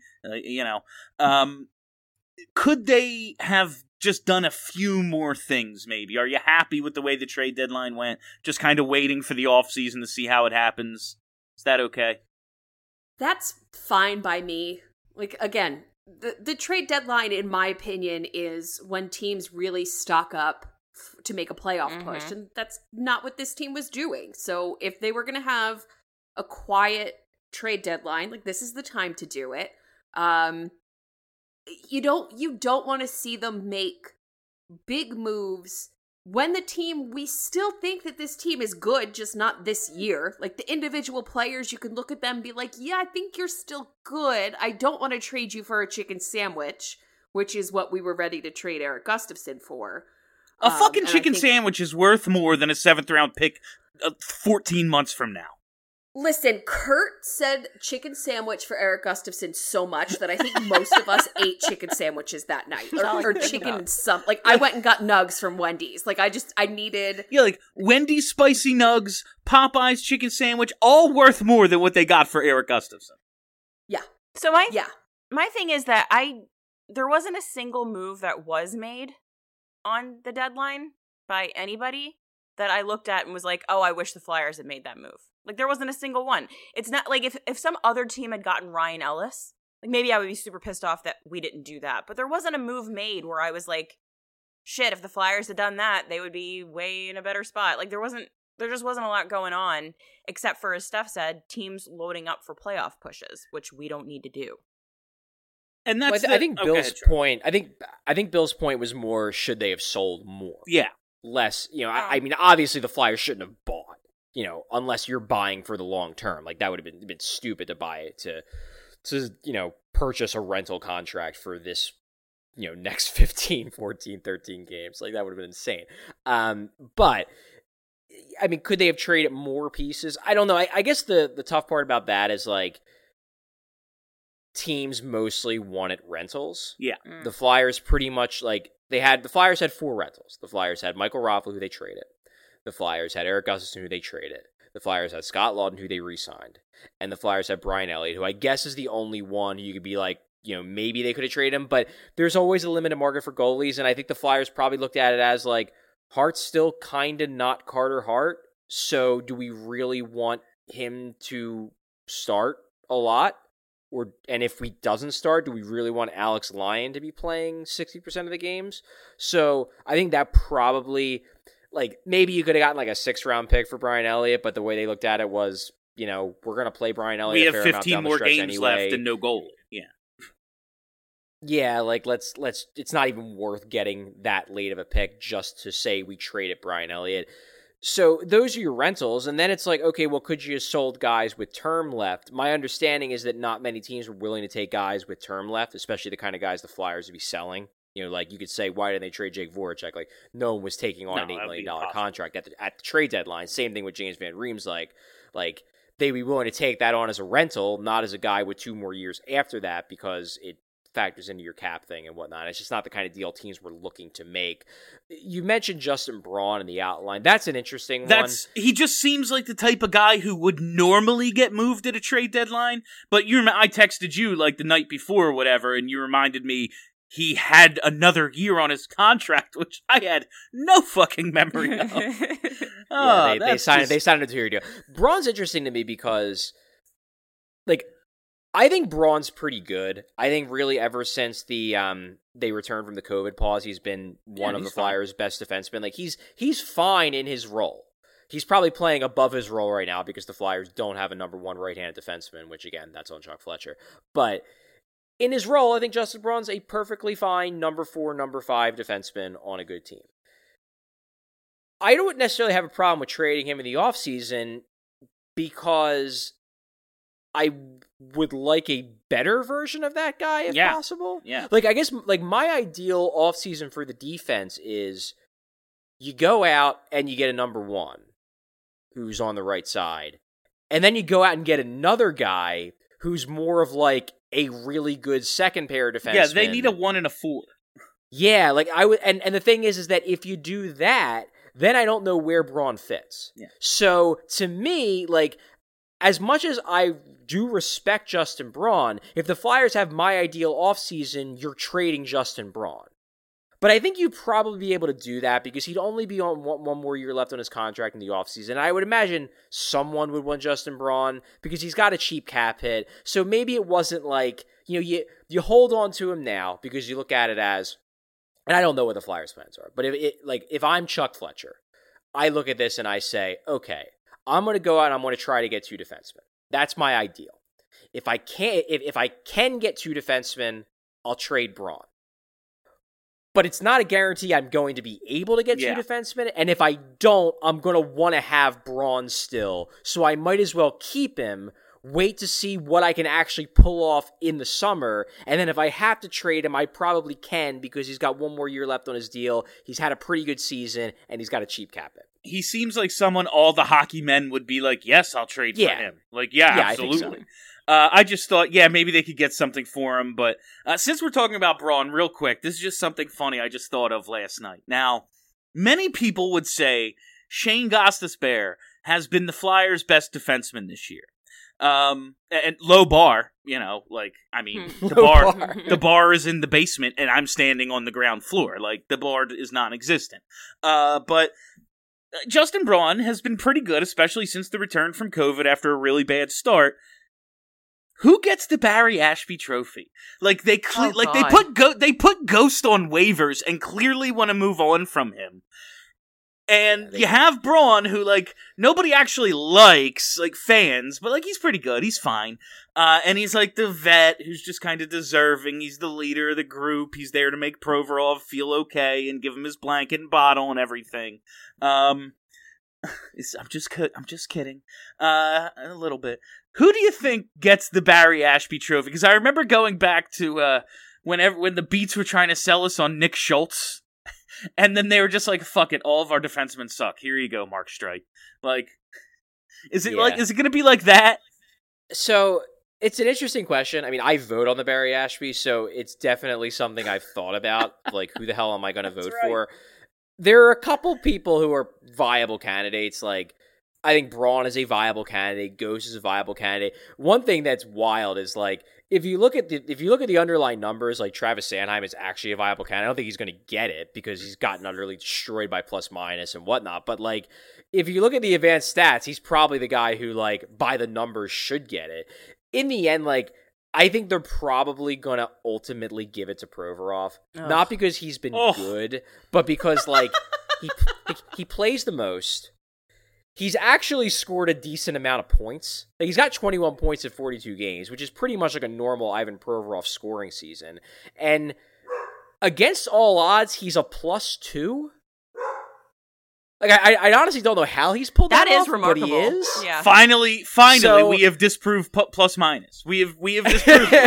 D: Could they have just done a few more things, maybe? Are you happy with the way the trade deadline went? Just kind of waiting for the offseason to see how it happens? Is that okay?
E: That's fine by me. Like, again, the trade deadline, in my opinion, is when teams really stock up to make a playoff push, and that's not what this team was doing. So if they were going to have a quiet trade deadline, like, this is the time to do it. You don't want to see them make big moves when we still think that this team is good, just not this year. Like, the individual players, you can look at them and be like, yeah, I think you're still good. I don't want to trade you for a chicken sandwich, which is what we were ready to trade Eric Gustafson for.
D: A fucking
E: and I
D: chicken
E: think-
D: sandwich is worth more than a 7th round pick 14 months from now.
E: Listen, Kurt said chicken sandwich for Eric Gustafson so much that I think most of us ate chicken sandwiches that night. Or chicken and some. Like, I went and got nugs from Wendy's. Like, I needed...
D: Yeah, like Wendy's spicy nugs, Popeye's chicken sandwich, all worth more than what they got for Eric Gustafson.
E: Yeah.
G: So
E: Yeah.
G: my thing is that there wasn't a single move that was made on the deadline by anybody that I looked at and was like, oh, I wish the Flyers had made that move. Like, there wasn't a single one. It's not like if some other team had gotten Ryan Ellis, like, maybe I would be super pissed off that we didn't do that. But there wasn't a move made where I was like, shit, if the Flyers had done that, they would be way in a better spot. Like, there just wasn't a lot going on, except for, as Steph said, teams loading up for playoff pushes, which we don't need to do.
D: And that's
F: I think Bill's point. I think Bill's point was more, should they have sold more?
D: Yeah.
F: Less, I mean, obviously the Flyers shouldn't have bought, unless you're buying for the long term. Like, that would have been stupid to buy it to purchase a rental contract for this, next 15, 14, 13 games. Like, that would have been insane. But I mean, could they have traded more pieces? I don't know. I guess the tough part about that is, like, teams mostly wanted rentals.
D: Yeah.
F: The Flyers pretty much, like, the Flyers had 4 rentals. The Flyers had Michael Raffl, who they traded. The Flyers had Eric Gustafsson, who they traded. The Flyers had Scott Laughton, who they re-signed. And the Flyers had Brian Elliott, who I guess is the only one who you could be like, maybe they could have traded him, but there's always a limited market for goalies, and I think the Flyers probably looked at it as, like, Hart's still kind of not Carter Hart, so do we really want him to start a lot? And if he doesn't start, do we really want Alex Lyon to be playing 60% of the games? So I think that probably, like, maybe you could have gotten like a 6th-round pick for Brian Elliott, but the way they looked at it was, we're going to play Brian Elliott.
D: We have 15 more games left and no goal. Yeah.
F: Yeah, like, let's. It's not even worth getting that late of a pick just to say we traded Brian Elliott. So those are your rentals, and then it's like, okay, well, could you have sold guys with term left? My understanding is that not many teams were willing to take guys with term left, especially the kind of guys the Flyers would be selling. Like, you could say, why didn't they trade Jake Voracek? Like, no one was taking on an $8 million contract at the trade deadline. Same thing with James Van Riem's, like they'd be willing to take that on as a rental, not as a guy with 2 more years after that, because it factors into your cap thing and whatnot. It's just not the kind of deal teams were looking to make. You mentioned Justin Braun in the outline. That's an interesting one.
D: He just seems like the type of guy who would normally get moved at a trade deadline. But I texted you like the night before or whatever, and you reminded me he had another year on his contract, which I had no fucking memory of.
F: They signed a 2-year deal. Braun's interesting to me because, like, I think Braun's pretty good. I think really ever since they returned from the COVID pause, he's been one of the Flyers' best defensemen. Like, he's fine in his role. He's probably playing above his role right now because the Flyers don't have a number 1 right-handed defenseman, which, again, that's on Chuck Fletcher. But in his role, I think Justin Braun's a perfectly fine number 4, number 5 defenseman on a good team. I don't necessarily have a problem with trading him in the offseason because I would like a better version of that guy if possible.
D: Yeah.
F: Like, I guess, like, my ideal offseason for the defense is you go out and you get a number 1 who's on the right side, and then you go out and get another guy who's more of, like, a really good second pair defenseman.
D: Yeah, they need a 1 and a 4.
F: Yeah, like, I would, and the thing is that if you do that, then I don't know where Braun fits.
D: Yeah.
F: So, to me, like, as much as I do respect Justin Braun, if the Flyers have my ideal offseason, you're trading Justin Braun. But I think you'd probably be able to do that because he'd only be on one more year left on his contract in the offseason. I would imagine someone would want Justin Braun because he's got a cheap cap hit. So maybe it wasn't like, you hold on to him now because you look at it as, and I don't know what the Flyers' plans are, but if I'm Chuck Fletcher, I look at this and I say, okay, I'm going to go out and I'm going to try to get 2 defensemen. That's my ideal. If I can get 2 defensemen, I'll trade Braun. But it's not a guarantee I'm going to be able to get 2 defensemen, and if I don't, I'm going to want to have Braun still, so I might as well keep him, wait to see what I can actually pull off in the summer, and then if I have to trade him, I probably can because he's got 1 more year left on his deal, he's had a pretty good season, and he's got a cheap cap hit.
D: He seems like someone all the hockey men would be like, yes, I'll trade for him. Like, absolutely. I think so. I just thought, maybe they could get something for him. But since we're talking about Braun, real quick, this is just something funny I just thought of last night. Now, many people would say Shane Gostisbehere has been the Flyers' best defenseman this year. And low bar, the bar is in the basement and I'm standing on the ground floor. Like, the bar is non-existent. But Justin Braun has been pretty good, especially since the return from COVID after a really bad start. Who gets the Barry Ashby Trophy? Like, they put Ghost on waivers and clearly want to move on from him. And you have Braun, who, like, nobody actually likes, like, fans, but, like, he's pretty good. He's fine. And he's, like, the vet who's just kind of deserving. He's the leader of the group. He's there to make Provorov feel okay and give him his blanket and bottle and everything. I'm just kidding. A little bit. Who do you think gets the Barry Ashby Trophy? Because I remember going back to when the Beats were trying to sell us on Nick Schultz, and then they were just like, "Fuck it, all of our defensemen suck. Here you go, Mark Streit." Like, is it going to be like that?
F: So it's an interesting question. I mean, I vote on the Barry Ashby, so it's definitely something I've thought about. Like, who the hell am I going to vote for? There are a couple people who are viable candidates. Like, I think Braun is a viable candidate. Ghost is a viable candidate. One thing that's wild is, like, if you look at the underlying numbers, like, Travis Sanheim is actually a viable candidate. I don't think he's going to get it because he's gotten utterly destroyed by plus minus and whatnot. But, like, if you look at the advanced stats, he's probably the guy who, like, by the numbers should get it. In the end, like, I think they're probably going to ultimately give it to Provorov. Not because he's been good, but because, like, he plays the most. He's actually scored a decent amount of points. Like, he's got 21 points in 42 games, which is pretty much like a normal Ivan Provorov scoring season. And against all odds, he's a +2. Like, I honestly don't know how he's pulled that off,
G: remarkable.
F: But he is.
G: Yeah.
D: Finally, so, we have disproved plus minus. We have disproved it.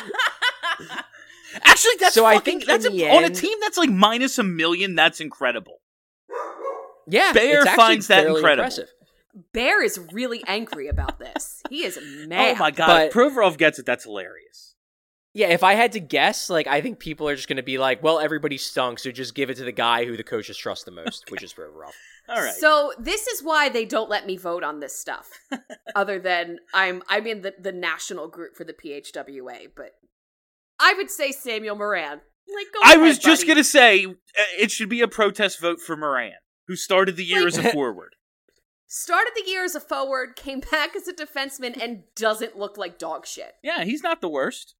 D: Actually, that's
F: so
D: fucking,
F: I think
D: that's
F: on
D: a team that's like minus $1 million. That's incredible.
F: Yeah,
D: Bear finds that incredible.
F: Impressive.
E: Bear is really angry about this. He is mad.
D: Oh my god,
F: But
D: Provorov gets it. That's hilarious.
F: Yeah, if I had to guess, like, I think people are just going to be like, well, everybody stunk, so just give it to the guy who the coaches trust the most, which is Provorov.
D: All right.
E: So this is why they don't let me vote on this stuff. Other than I'm in the national group for the PHWA, but I would say Samuel Morin. Like, go ahead,
D: was just
E: buddy.
D: going to say it should be a protest vote for Morin, who started the year as a forward.
E: Started the year as a forward, came back as a defenseman, and doesn't look like dog shit.
D: Yeah, he's not the worst.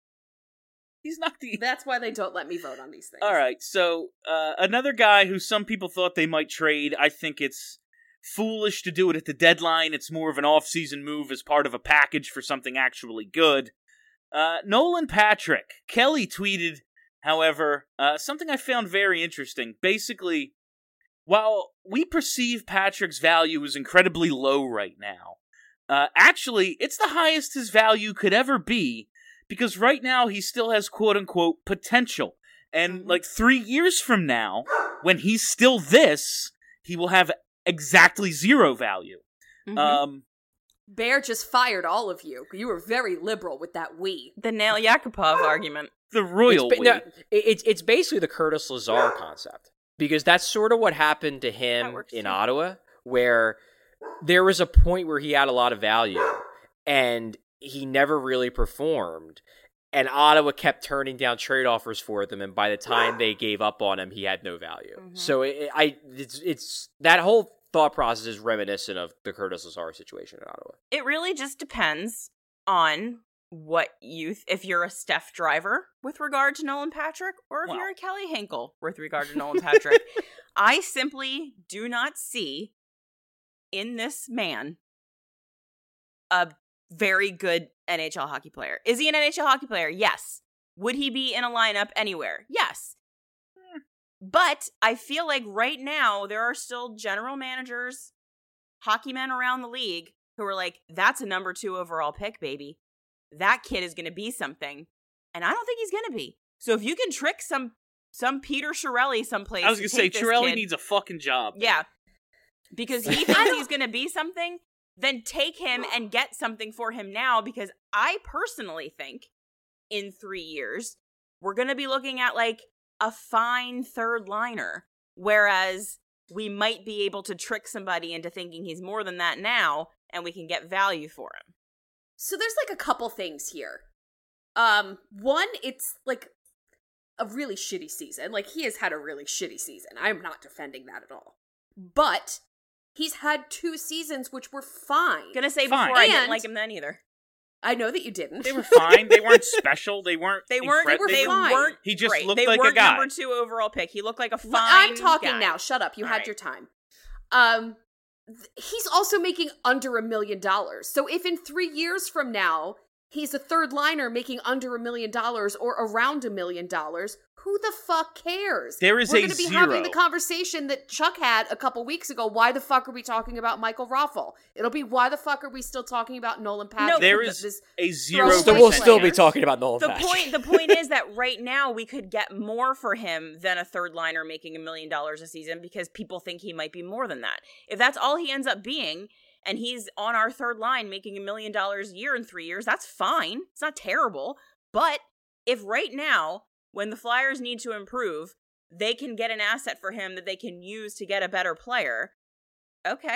D: He's not the...
E: That's why they don't let me vote on these things.
D: All right, so another guy who some people thought they might trade, I think it's foolish to do it at the deadline. It's more of an off-season move as part of a package for something actually good. Nolan Patrick. Kelly tweeted, however, something I found very interesting. Basically, while we perceive Patrick's value as incredibly low right now, actually, it's the highest his value could ever be, because right now he still has quote-unquote potential. And, like, 3 years from now, when he's still this, he will have exactly zero value.
E: Mm-hmm. Bear just fired all of you. You were very liberal with that we.
G: The Nail Yakupov argument.
D: The royal we.
F: No, it's basically the Curtis Lazar concept. Because that's sort of what happened to him in Ottawa, where there was a point where he had a lot of value, and he never really performed, and Ottawa kept turning down trade offers for them, and by the time they gave up on him, he had no value. Mm-hmm. So it's that whole thought process is reminiscent of the Curtis Lazar situation in Ottawa.
G: It really just depends on what if you're a Steph Driver with regard to Nolan Patrick, or if you're a Kelly Hinkle with regard to Nolan Patrick. I simply do not see in this man a very good NHL hockey player. Is he an NHL hockey player? Yes. Would he be in a lineup anywhere? Yes. But I feel like right now there are still general managers, hockey men around the league who are like, that's a number 2 overall pick, baby. That kid is going to be something. And I don't think he's going to be. So if you can trick some Peter Chiarelli someplace.
D: I was going to say, Chiarelli needs a fucking job.
G: Yeah. Because he thinks he's going to be something, then take him and get something for him now, because I personally think in 3 years, we're going to be looking at like a fine third liner, whereas we might be able to trick somebody into thinking he's more than that now, and we can get value for him.
E: So there's like a couple things here. One, it's like a really shitty season. Like, he has had a really shitty season. I'm not defending that at all. But he's had 2 seasons which were fine.
G: Gonna say
D: Fine.
G: before I didn't
E: And-
G: like him then either.
E: I know that you didn't.
D: They were fine. They weren't special. They weren't.
G: They weren't.
D: incredible.
G: They
E: fine.
G: weren't.
D: He just
G: great.
D: looked
G: they
D: like a
G: weren't
D: guy.
G: number 2 overall pick. He looked like a fine.
E: I'm talking
G: guy.
E: now. Shut up. You
G: All
E: had
G: right.
E: your time. He's also making under $1 million. So if in 3 years from now he's a third liner making under $1 million or around $1 million, who the fuck cares?
D: There is
E: We're
D: a
E: going to be
D: zero.
E: having the conversation that Chuck had a couple weeks ago. Why the fuck are we talking about Michael Raffel? It'll be why the fuck are we still talking about Nolan Patrick?
D: There is
E: This
D: a
E: throwaway
D: 0%.
F: We'll still be
E: players.
F: talking about Nolan
G: The
F: Patrick.
G: point is that right now we could get more for him than a third liner making $1 million a season because people think he might be more than that. If that's all he ends up being, and he's on our third line making $1 million a year in 3 years, that's fine. It's not terrible. But if right now, when the Flyers need to improve, they can get an asset for him that they can use to get a better player, okay.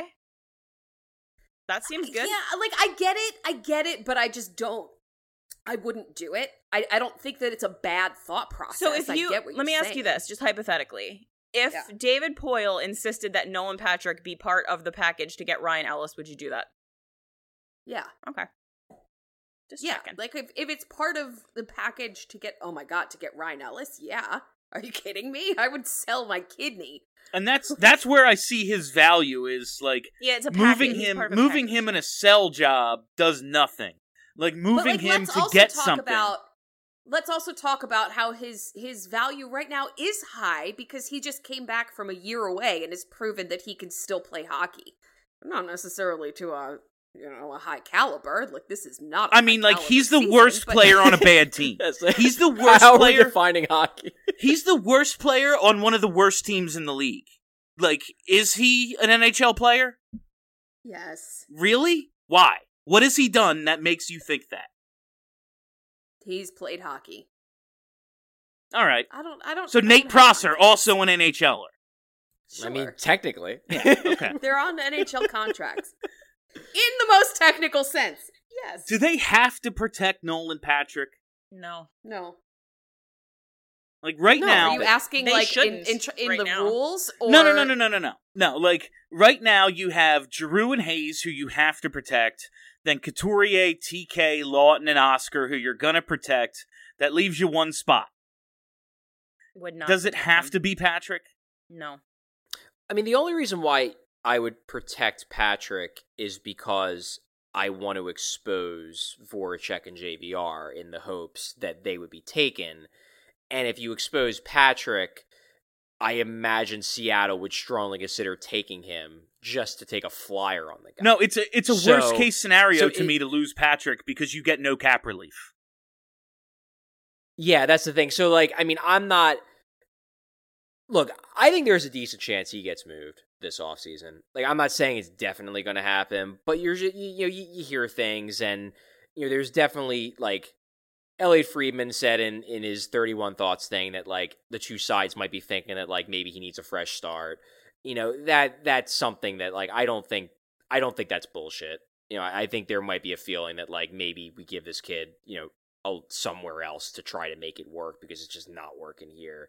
G: That seems good.
E: Yeah, like, I get it, but I just don't. I wouldn't do it. I don't think that it's a bad thought process.
G: So if
E: I
G: you,
E: get what
G: let me
E: you're
G: ask you
E: saying.
G: this, just hypothetically. If
E: Yeah.
G: David Poile insisted that Nolan Patrick be part of the package to get Ryan Ellis, would you do that?
E: Yeah.
G: Okay. Just
E: Yeah,
G: checking.
E: like if it's part of the package to get, oh my god, to get Ryan Ellis, yeah. Are you kidding me? I would sell my kidney.
D: And that's where I see his value is, like,
G: Yeah, it's a
D: moving
G: package. He's
D: him
G: part of a
D: moving
G: package.
D: him in a cell job does nothing. Like, moving
E: But, like,
D: him
E: let's
D: to
E: also
D: get
E: talk
D: something.
E: Let's also talk about how his value right now is high because he just came back from a year away and has proven that he can still play hockey. Not necessarily to a high caliber. Like, this is not.
D: I mean, like, he's the worst
E: but-
D: player on a bad team. He's the worst
F: How are we
D: player.
F: defining hockey?
D: He's the worst player on one of the worst teams in the league. Like, is he an NHL player?
E: Yes,
D: Really? Why? What has he done that makes you think that?
E: he's played hockey.
D: All right.
E: I don't.
D: So
E: I
D: Nate
E: don't have
D: Prosser,
E: context.
D: also an NHLer.
E: Sure.
F: I mean, technically.
D: Okay.
E: They're on NHL contracts. In the most technical sense. Yes.
D: Do they have to protect Nolan Patrick?
G: No.
E: No.
D: Like, right
E: No,
D: now...
E: are you asking,
G: They
E: like,
G: shouldn't
E: in
G: right
E: the
G: now.
E: rules? Or...
D: No, like, right now you have Giroux and Hayes, who you have to protect, then Couturier, TK, Lawton, and Oscar, who you're gonna protect. That leaves you one spot.
G: Would not.
D: Does it
G: protect
D: have
G: him.
D: to be Patrick?
G: No.
F: I mean, the only reason why I would protect Patrick is because I want to expose Voracek and JVR in the hopes that they would be taken. And if you expose Patrick, I imagine Seattle would strongly consider taking him just to take a flyer on the guy.
D: No, it's a
F: So-
D: worst case scenario
F: so
D: to
F: it-
D: me to lose Patrick because you get no cap relief.
F: Yeah, that's the thing. So, like, I mean, I'm not... Look, I think there's a decent chance he gets moved this offseason. Like, I'm not saying it's definitely going to happen, but you hear things, and, there's definitely, like... Elliot Friedman said in his 31 Thoughts thing that, like, the two sides might be thinking that, like, maybe he needs a fresh start. That's something that, like, I don't think that's bullshit. I think there might be a feeling that, like, maybe we give this kid, somewhere else to try to make it work because it's just not working here.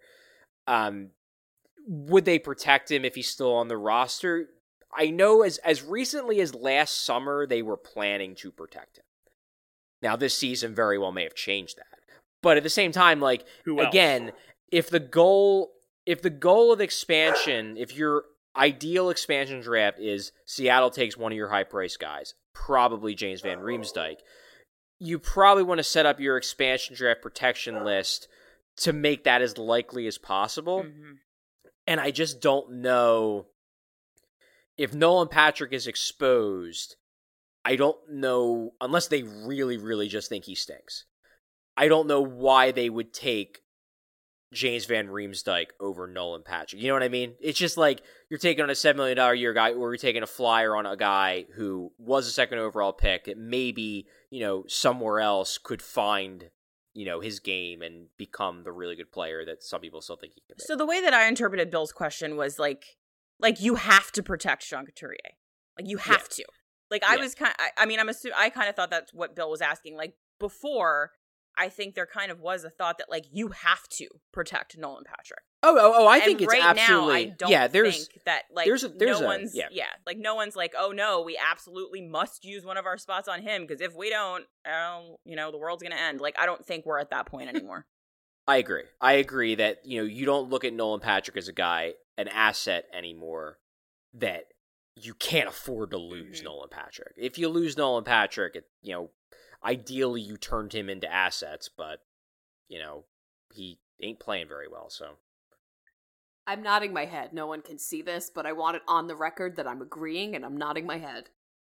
F: Would they protect him if he's still on the roster? I know as recently as last summer, they were planning to protect him. Now, this season very well may have changed that. But at the same time, like,
D: Who else?
F: again, if the goal of expansion, if your ideal expansion draft is Seattle takes one of your high-priced guys, probably James Van Riemsdyk, you probably want to set up your expansion draft protection list to make that as likely as possible.
G: Mm-hmm.
F: And I just don't know if Nolan Patrick is exposed. I don't know, unless they really, really just think he stinks. I don't know why they would take James Van Riemsdyk over Nolan Patrick. You know what I mean? It's just like you're taking on a $7 million a year guy, or you're taking a flyer on a guy who was a second overall pick that maybe, somewhere else could find, his game and become the really good player that some people still think he can be.
G: So the way that I interpreted Bill's question was like you have to protect Sean Couturier. Like, you have to. Like, I was I kind of thought that's what Bill was asking. Like, before, I think there kind of was a thought that, like, you have to protect Nolan Patrick.
F: I think it's
G: right
F: absolutely.
G: Now, I don't think that, like, no one's like, oh no, we absolutely must use one of our spots on him, because if we don't, the world's gonna end. Like, I don't think we're at that point anymore.
F: I agree that, you don't look at Nolan Patrick as an asset anymore, that you can't afford to lose Nolan Patrick. If you lose Nolan Patrick, ideally you turned him into assets, but, he ain't playing very well, so.
E: I'm nodding my head. No one can see this, but I want it on the record that I'm agreeing, and I'm nodding my head.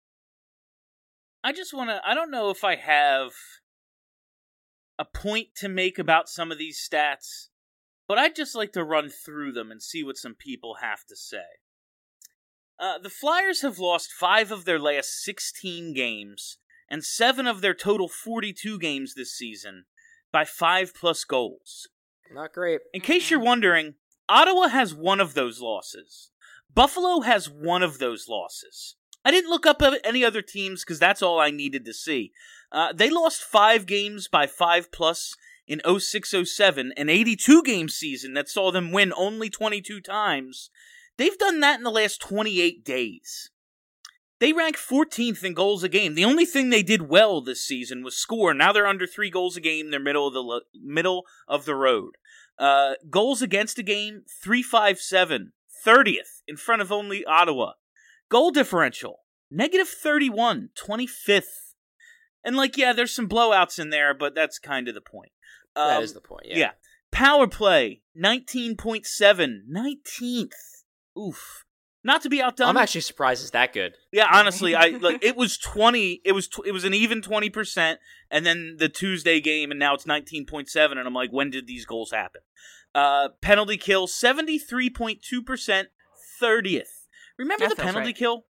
D: I don't know if I have a point to make about some of these stats, but I'd just like to run through them and see what some people have to say. The Flyers have lost 5 of their last 16 games, and 7 of their total 42 games this season, by 5+ goals.
F: Not great.
D: In case you're wondering, Ottawa has 1 of those losses. Buffalo has 1 of those losses. I didn't look up any other teams because that's all I needed to see. They lost 5 games by 5+ in 06-07, an 82-game season that saw them win only 22 times. They've done that in the last 28 days. They rank 14th in goals a game. The only thing they did well this season was score. Now they're under 3 goals a game. They're middle of the road. Goals against a game, 357, 30th in front of only Ottawa. Goal differential, -31, 25th. And there's some blowouts in there, but that's kind of the point.
F: That is the point, yeah.
D: Power play, 19.7, 19th. Oof. Not to be outdone.
F: I'm actually surprised it's that good.
D: Yeah, honestly, it was 20. It was an even 20%, and then the Tuesday game, and now it's 19.7. And I'm like, when did these goals happen? Penalty kill, 73.2%, 30th. Remember the penalty kill?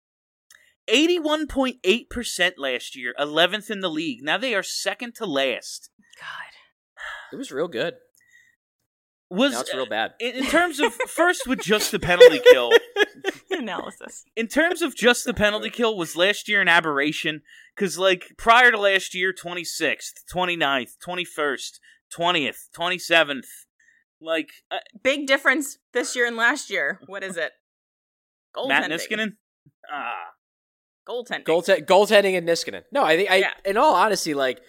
D: 81.8% last year, 11th in the league. Now they are second to last.
G: God,
F: it was real good. Now it's real bad.
D: In terms of, first with just the penalty kill.
G: Analysis.
D: In terms of just the penalty kill, was last year an aberration? Because, prior to last year, 26th, 29th, 21st, 20th, 27th.
G: Big difference this year and last year. What is it? Goaltending.
D: Matt Niskanen?
G: Goaltending.
F: Goaltending and Niskanen. No, I think, in all honesty,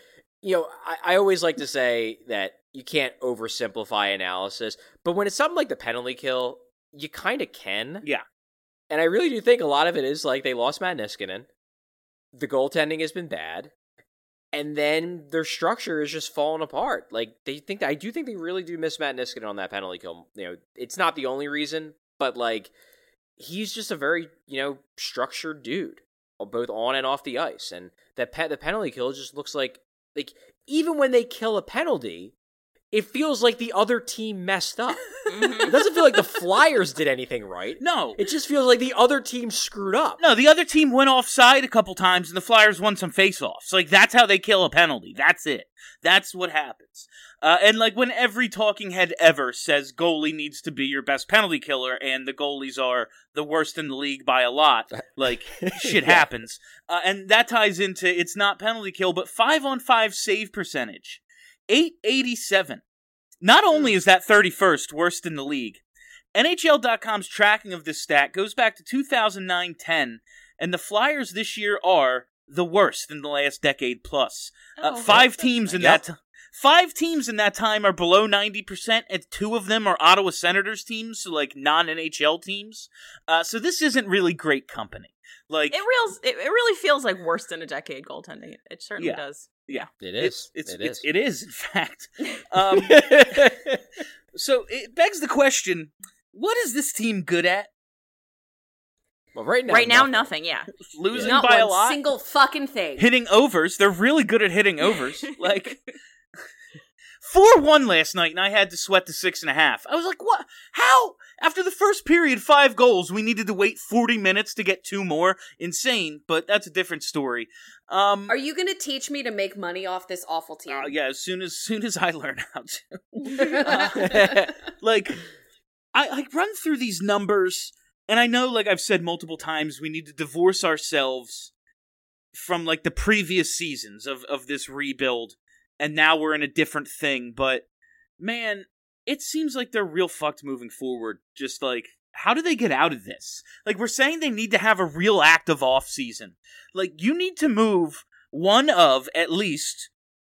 F: I always like to say that you can't oversimplify analysis, but when it's something like the penalty kill, you kind of can.
D: Yeah.
F: And I really do think a lot of it is they lost Matt Niskanen. The goaltending has been bad. And then their structure is just falling apart. I do think they really do miss Matt Niskanen on that penalty kill. It's not the only reason, but he's just a very, structured dude, both on and off the ice. And the penalty kill just looks like even when they kill a penalty, it feels like the other team messed up. It doesn't feel like the Flyers did anything right.
D: No.
F: It just feels like the other team screwed up.
D: No, the other team went offside a couple times and the Flyers won some face-offs. That's how they kill a penalty. That's it. That's what happens. And when every talking head ever says goalie needs to be your best penalty killer and the goalies are the worst in the league by a lot, shit happens. And that ties into, it's not penalty kill, but 5-on-5 save percentage. 887. Not only is that 31st worst in the league, NHL.com's tracking of this stat goes back to 2009-10, and the Flyers this year are the worst in the last decade plus. 5 teams in that 5 teams in that time are below 90%, and 2 of them are Ottawa Senators teams, so non-NHL teams. So this isn't really great company.
G: It really feels like worst in a decade goaltending. It certainly does.
D: Yeah,
F: it is.
D: It is, in fact. So it begs the question: what is this team good at?
F: Well, right now,
G: nothing. Yeah,
D: losing
E: Not
D: by
E: one
D: a lot.
E: single fucking thing.
D: Hitting overs. They're really good at hitting overs. 4-1 last night, and I had to sweat to 6.5. I was like, what? How? After the first period, 5 goals, we needed to wait 40 minutes to get 2 more? Insane, but that's a different story.
E: Are you going to teach me to make money off this awful team?
D: Yeah, as soon as I learn how to. I run through these numbers, and I know, I've said multiple times, we need to divorce ourselves from like the previous seasons of this rebuild, and now we're in a different thing. But man, it seems like they're real fucked moving forward. Just like, how do they get out of this? Like, we're saying they need to have a real active offseason. Like, you need to move one of at least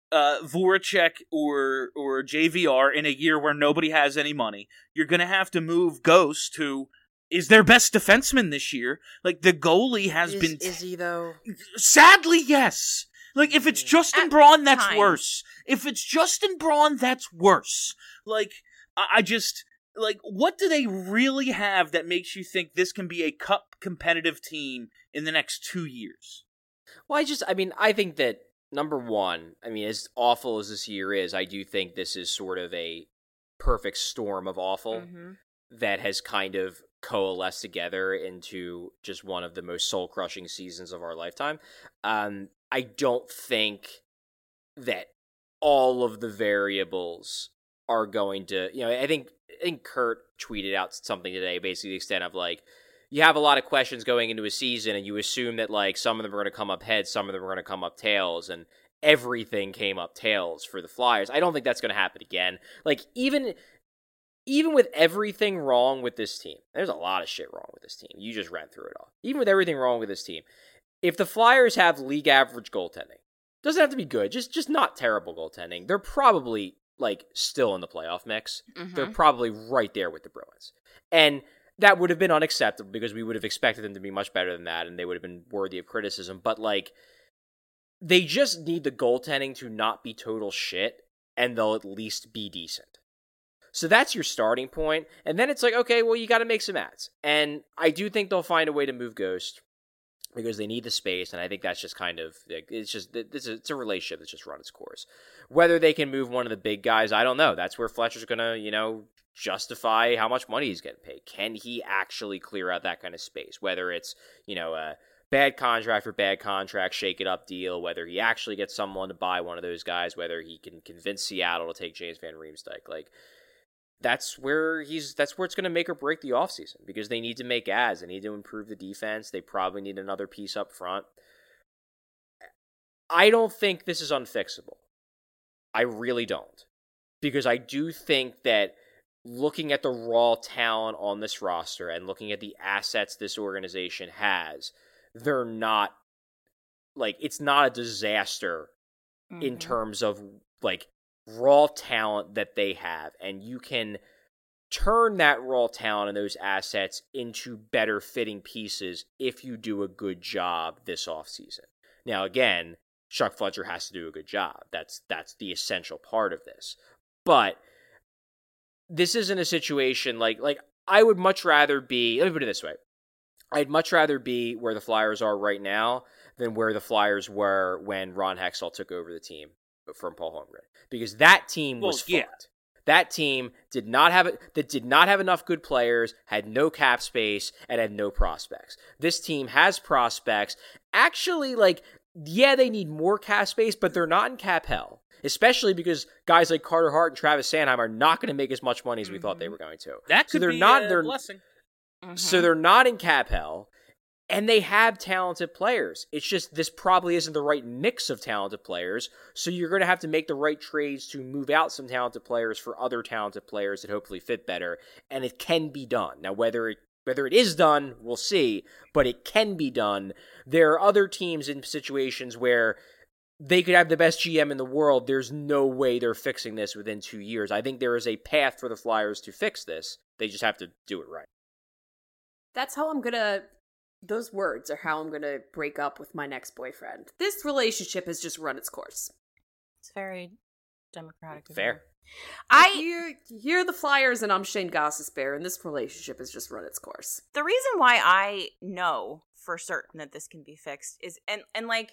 D: Voracek or JVR in a year where nobody has any money. You're gonna have to move Ghost, who is their best defenseman this year. Like, the goalie has been...
F: Is he, though?
D: Sadly, yes. Like, if it's Justin Braun, that's
G: times.
D: worse. If it's Justin Braun, that's worse. Like, I just... Like, what do they really have that makes you think this can be a cup competitive team in the next 2 years?
F: Well, I think that, number one, as awful as this year is, I do think this is sort of a perfect storm of awful that has kind of coalesced together into just one of the most soul-crushing seasons of our lifetime. I don't think that all of the variables are going to, I think Kurt tweeted out something today, basically the extent of like, you have a lot of questions going into a season and you assume that like some of them are going to come up heads, some of them are going to come up tails, and everything came up tails for the Flyers. I don't think that's going to happen again. Like, even with everything wrong with this team, there's a lot of shit wrong with this team. You just ran through it all. Even with everything wrong with this team, if the Flyers have league average goaltending, doesn't have to be good, just not terrible goaltending, they're probably like still in the playoff mix. They're probably right there with the Bruins. And that would have been unacceptable because we would have expected them to be much better than that and they would have been worthy of criticism. But like, they just need the goaltending to not be total shit and they'll at least be decent. So that's your starting point. And then it's like, okay, well, you got to make some ads. And I do think they'll find a way to move Ghost because they need the space. And I think that's just kind of, it's a relationship that's just run its course. Whether they can move one of the big guys, I don't know. That's where Fletcher's going to, justify how much money he's getting paid. Can he actually clear out that kind of space? Whether it's, a bad contract for bad contract, shake it up deal, whether he actually gets someone to buy one of those guys, whether he can convince Seattle to take James Van Riemsdyk. Like, that's where it's going to make or break the offseason because they need to make ads. They need to improve the defense. They probably need another piece up front. I don't think this is unfixable. I really don't. Because I do think that looking at the raw talent on this roster and looking at the assets this organization has, they're not, like, it's not a disaster in terms of, like, raw talent that they have, and you can turn that raw talent and those assets into better fitting pieces if you do a good job this offseason. Now, again, Chuck Fletcher has to do a good job. That's the essential part of this. But this isn't a situation like I would much rather be, let me put it this way. I'd much rather be where the Flyers are right now than where the Flyers were when Ron Hextall took over the team from Paul Holmgren, because that team was fucked. That team did not have enough good players, had no cap space, and had no prospects. This team has prospects. Actually, they need more cap space, but they're not in cap hell. Especially because guys like Carter Hart and Travis Sanheim are not going to make as much money as we thought they were going to.
D: That could be a blessing.
F: So they're not in cap hell. And they have talented players. It's just this probably isn't the right mix of talented players, so you're going to have to make the right trades to move out some talented players for other talented players that hopefully fit better, and it can be done. Now, whether it is done, we'll see, but it can be done. There are other teams in situations where they could have the best GM in the world. There's no way they're fixing this within 2 years. I think there is a path for the Flyers to fix this. They just have to do it right.
E: That's how those words are how I'm going to break up with my next boyfriend. This relationship has just run its course.
G: It's very democratic.
F: Fair.
E: You're the Flyers and I'm Shane Gostisbehere, and this relationship has just run its course.
G: The reason why I know for certain that this can be fixed is, and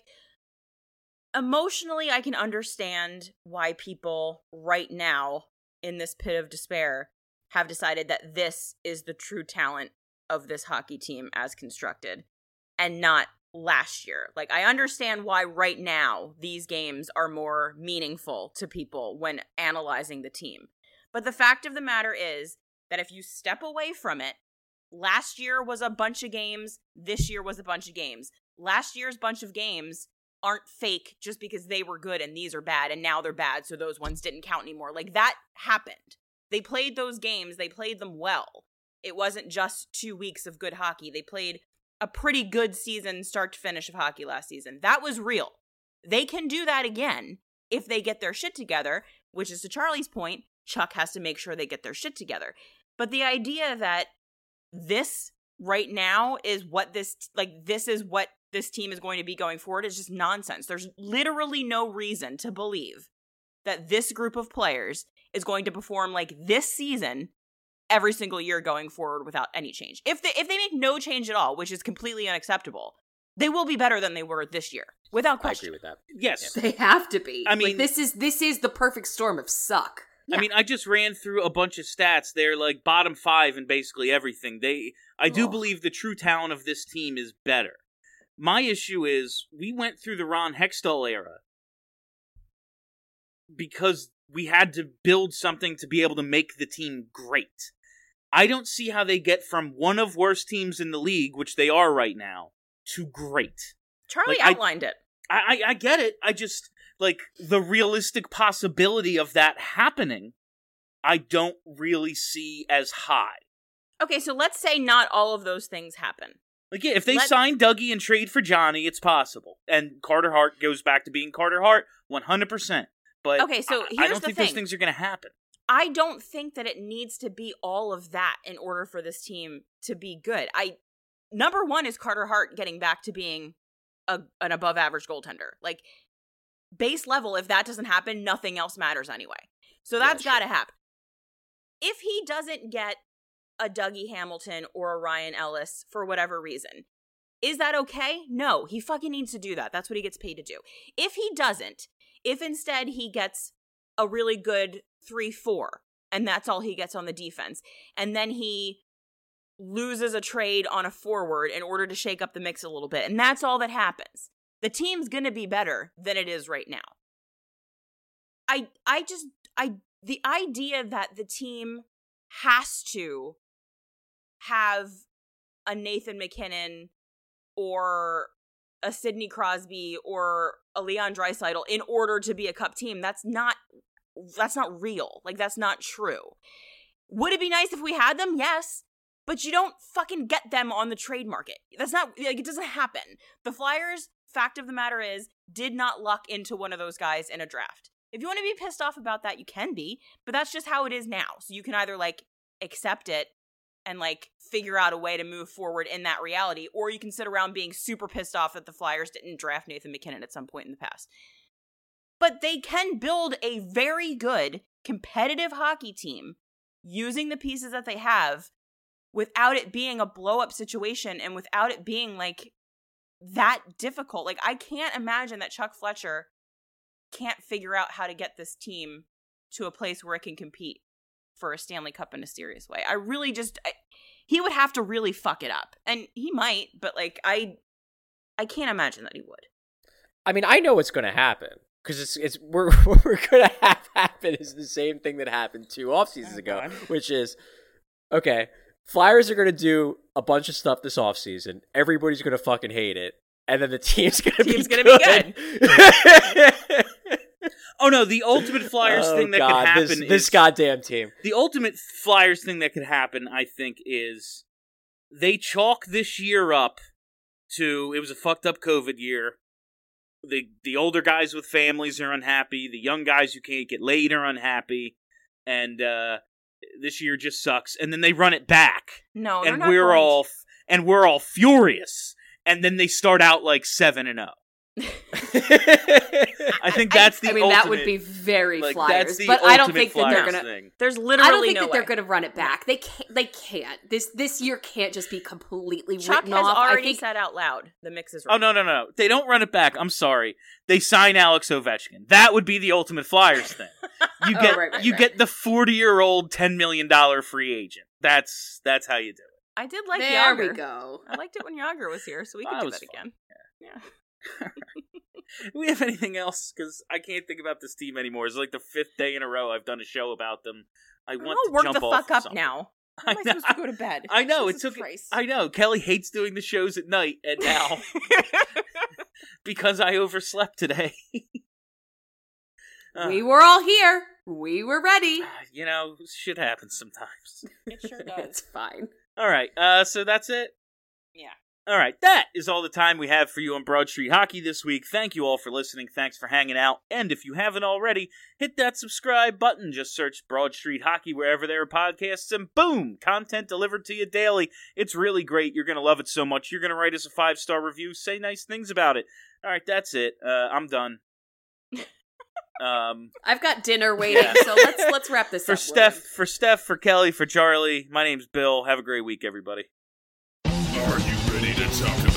G: emotionally I can understand why people right now in this pit of despair have decided that this is the true talent of this hockey team as constructed and not last year. Like, I understand why right now these games are more meaningful to people when analyzing the team. But the fact of the matter is that if you step away from it, last year was a bunch of games, this year was a bunch of games. last year's bunch of games aren't fake just because they were good and these are bad and now they're bad, so those ones didn't count anymore. Like, that happened. They played those games. They played them well. It wasn't just 2 weeks of good hockey. They played a pretty good season, start to finish, of hockey last season. That was real. They can do that again if they get their shit together, which is to Charlie's point, Chuck has to make sure they get their shit together. But the idea that this right now is what this is what this team is going to be going forward is just nonsense. There's literally no reason to believe that this group of players is going to perform like this season every single year going forward without any change. If they make no change at all, which is completely unacceptable, they will be better than they were this year, without question.
F: I agree with that.
D: Yes.
E: They have to be.
D: I mean,
E: like, this is the perfect storm of suck.
D: I mean, I just ran through a bunch of stats. They're like bottom 5 in basically everything. I do believe the true talent of this team is better. My issue is we went through the Ron Hextall era because we had to build something to be able to make the team great. I don't see how they get from one of worst teams in the league, which they are right now, to great.
G: Charlie outlined it.
D: I get it. I just, like, the realistic possibility of that happening, I don't really see as high.
G: Okay, so let's say not all of those things happen.
D: Like, yeah, if they sign Dougie and trade for Johnny, it's possible. And Carter Hart goes back to being Carter Hart 100%. But
G: okay, so here's
D: I don't
G: the
D: think
G: thing.
D: those things are going to happen.
G: I don't think that it needs to be all of that in order for this team to be good. Number one is Carter Hart getting back to being an above-average goaltender. Like, base level, if that doesn't happen, nothing else matters anyway. So that's got to happen. If he doesn't get a Dougie Hamilton or a Ryan Ellis for whatever reason, is that okay? No, he fucking needs to do that. That's what he gets paid to do. If he doesn't, if instead he gets a really good 3-4, and that's all he gets on the defense, and then he loses a trade on a forward in order to shake up the mix a little bit, and that's all that happens, the team's gonna be better than it is right now. The idea that the team has to have a Nathan McKinnon or a Sidney Crosby or a Leon Draisaitl in order to be a cup team, that's not real. Like, that's not true. Would it be nice if we had them? Yes. But you don't fucking get them on the trade market. That's not, like, it doesn't happen. The Flyers, fact of the matter is, did not luck into one of those guys in a draft. If you want to be pissed off about that, you can be, but that's just how it is now. So you can either, like, accept it and, like, figure out a way to move forward in that reality, or you can sit around being super pissed off that the Flyers didn't draft Nathan McKinnon at some point in the past. But they can build a very good, competitive hockey team using the pieces that they have without it being a blow-up situation and without it being, like, that difficult. Like, I can't imagine that Chuck Fletcher can't figure out how to get this team to a place where it can compete for a Stanley Cup in a serious way. I really just... he would have to really fuck it up. And he might, but, like, I can't imagine that he would.
F: I mean, I know what's going to happen. Because we're going to have happen is the same thing that happened 2 off seasons ago, which is, okay, Flyers are going to do a bunch of stuff this offseason. Everybody's going to fucking hate it. And then the team's going to be good.
D: Oh, no, the ultimate Flyers thing that could happen is...
F: This goddamn team.
D: The ultimate Flyers thing that could happen, I think, is they chalk this year up to... It was a fucked up COVID year. The older guys with families are unhappy. The young guys who can't get laid are unhappy. And this year just sucks. And then they run it back.
G: No,
D: and we're all furious. And then they start out like 7-0. I think that's the ultimate.
E: That would be very Flyers,
D: but
E: I don't think that they're
D: Flyers
E: gonna.
D: thing.
G: There's literally
E: I don't think
G: no
E: that
G: way.
E: they're gonna run it back. They can't. This year can't just be completely
G: Chuck
E: written
G: has
E: off.
G: already said out loud the mix is right.
D: Oh, no. They don't run it back. I'm sorry. They sign Alex Ovechkin. That would be the ultimate Flyers thing. You get get the 40-year-old $10 million free agent. That's how you do it.
G: I did like
E: there
G: Yager.
E: we go.
G: I liked it when Yager was here, so we could do that again. Yeah.
D: Do we have anything else? Because I can't think about this team anymore. It's like the 5th day in a row I've done a show about them. I want to
G: work
D: jump
G: the
D: off
G: fuck up
D: something.
G: now. How am I supposed to go to bed?
D: I know
G: Jesus Christ.
D: I know Kelly hates doing the shows at night, and now because I overslept today.
E: We were all here. We were ready.
D: You know, shit happens sometimes.
G: It sure does.
E: It's fine.
D: All right, so that's it.
G: Yeah.
D: All right, that is all the time we have for you on Broad Street Hockey this week. Thank you all for listening. Thanks for hanging out. And if you haven't already, hit that subscribe button. Just search Broad Street Hockey wherever there are podcasts, and boom, content delivered to you daily. It's really great. You're going to love it so much. You're going to write us a 5-star review, say nice things about it. All right, that's it. I'm done.
E: I've got dinner waiting, so let's wrap this up.
D: For Steph, for Kelly, for Charlie, my name's Bill. Have a great week, everybody.
H: Are you ready to talk about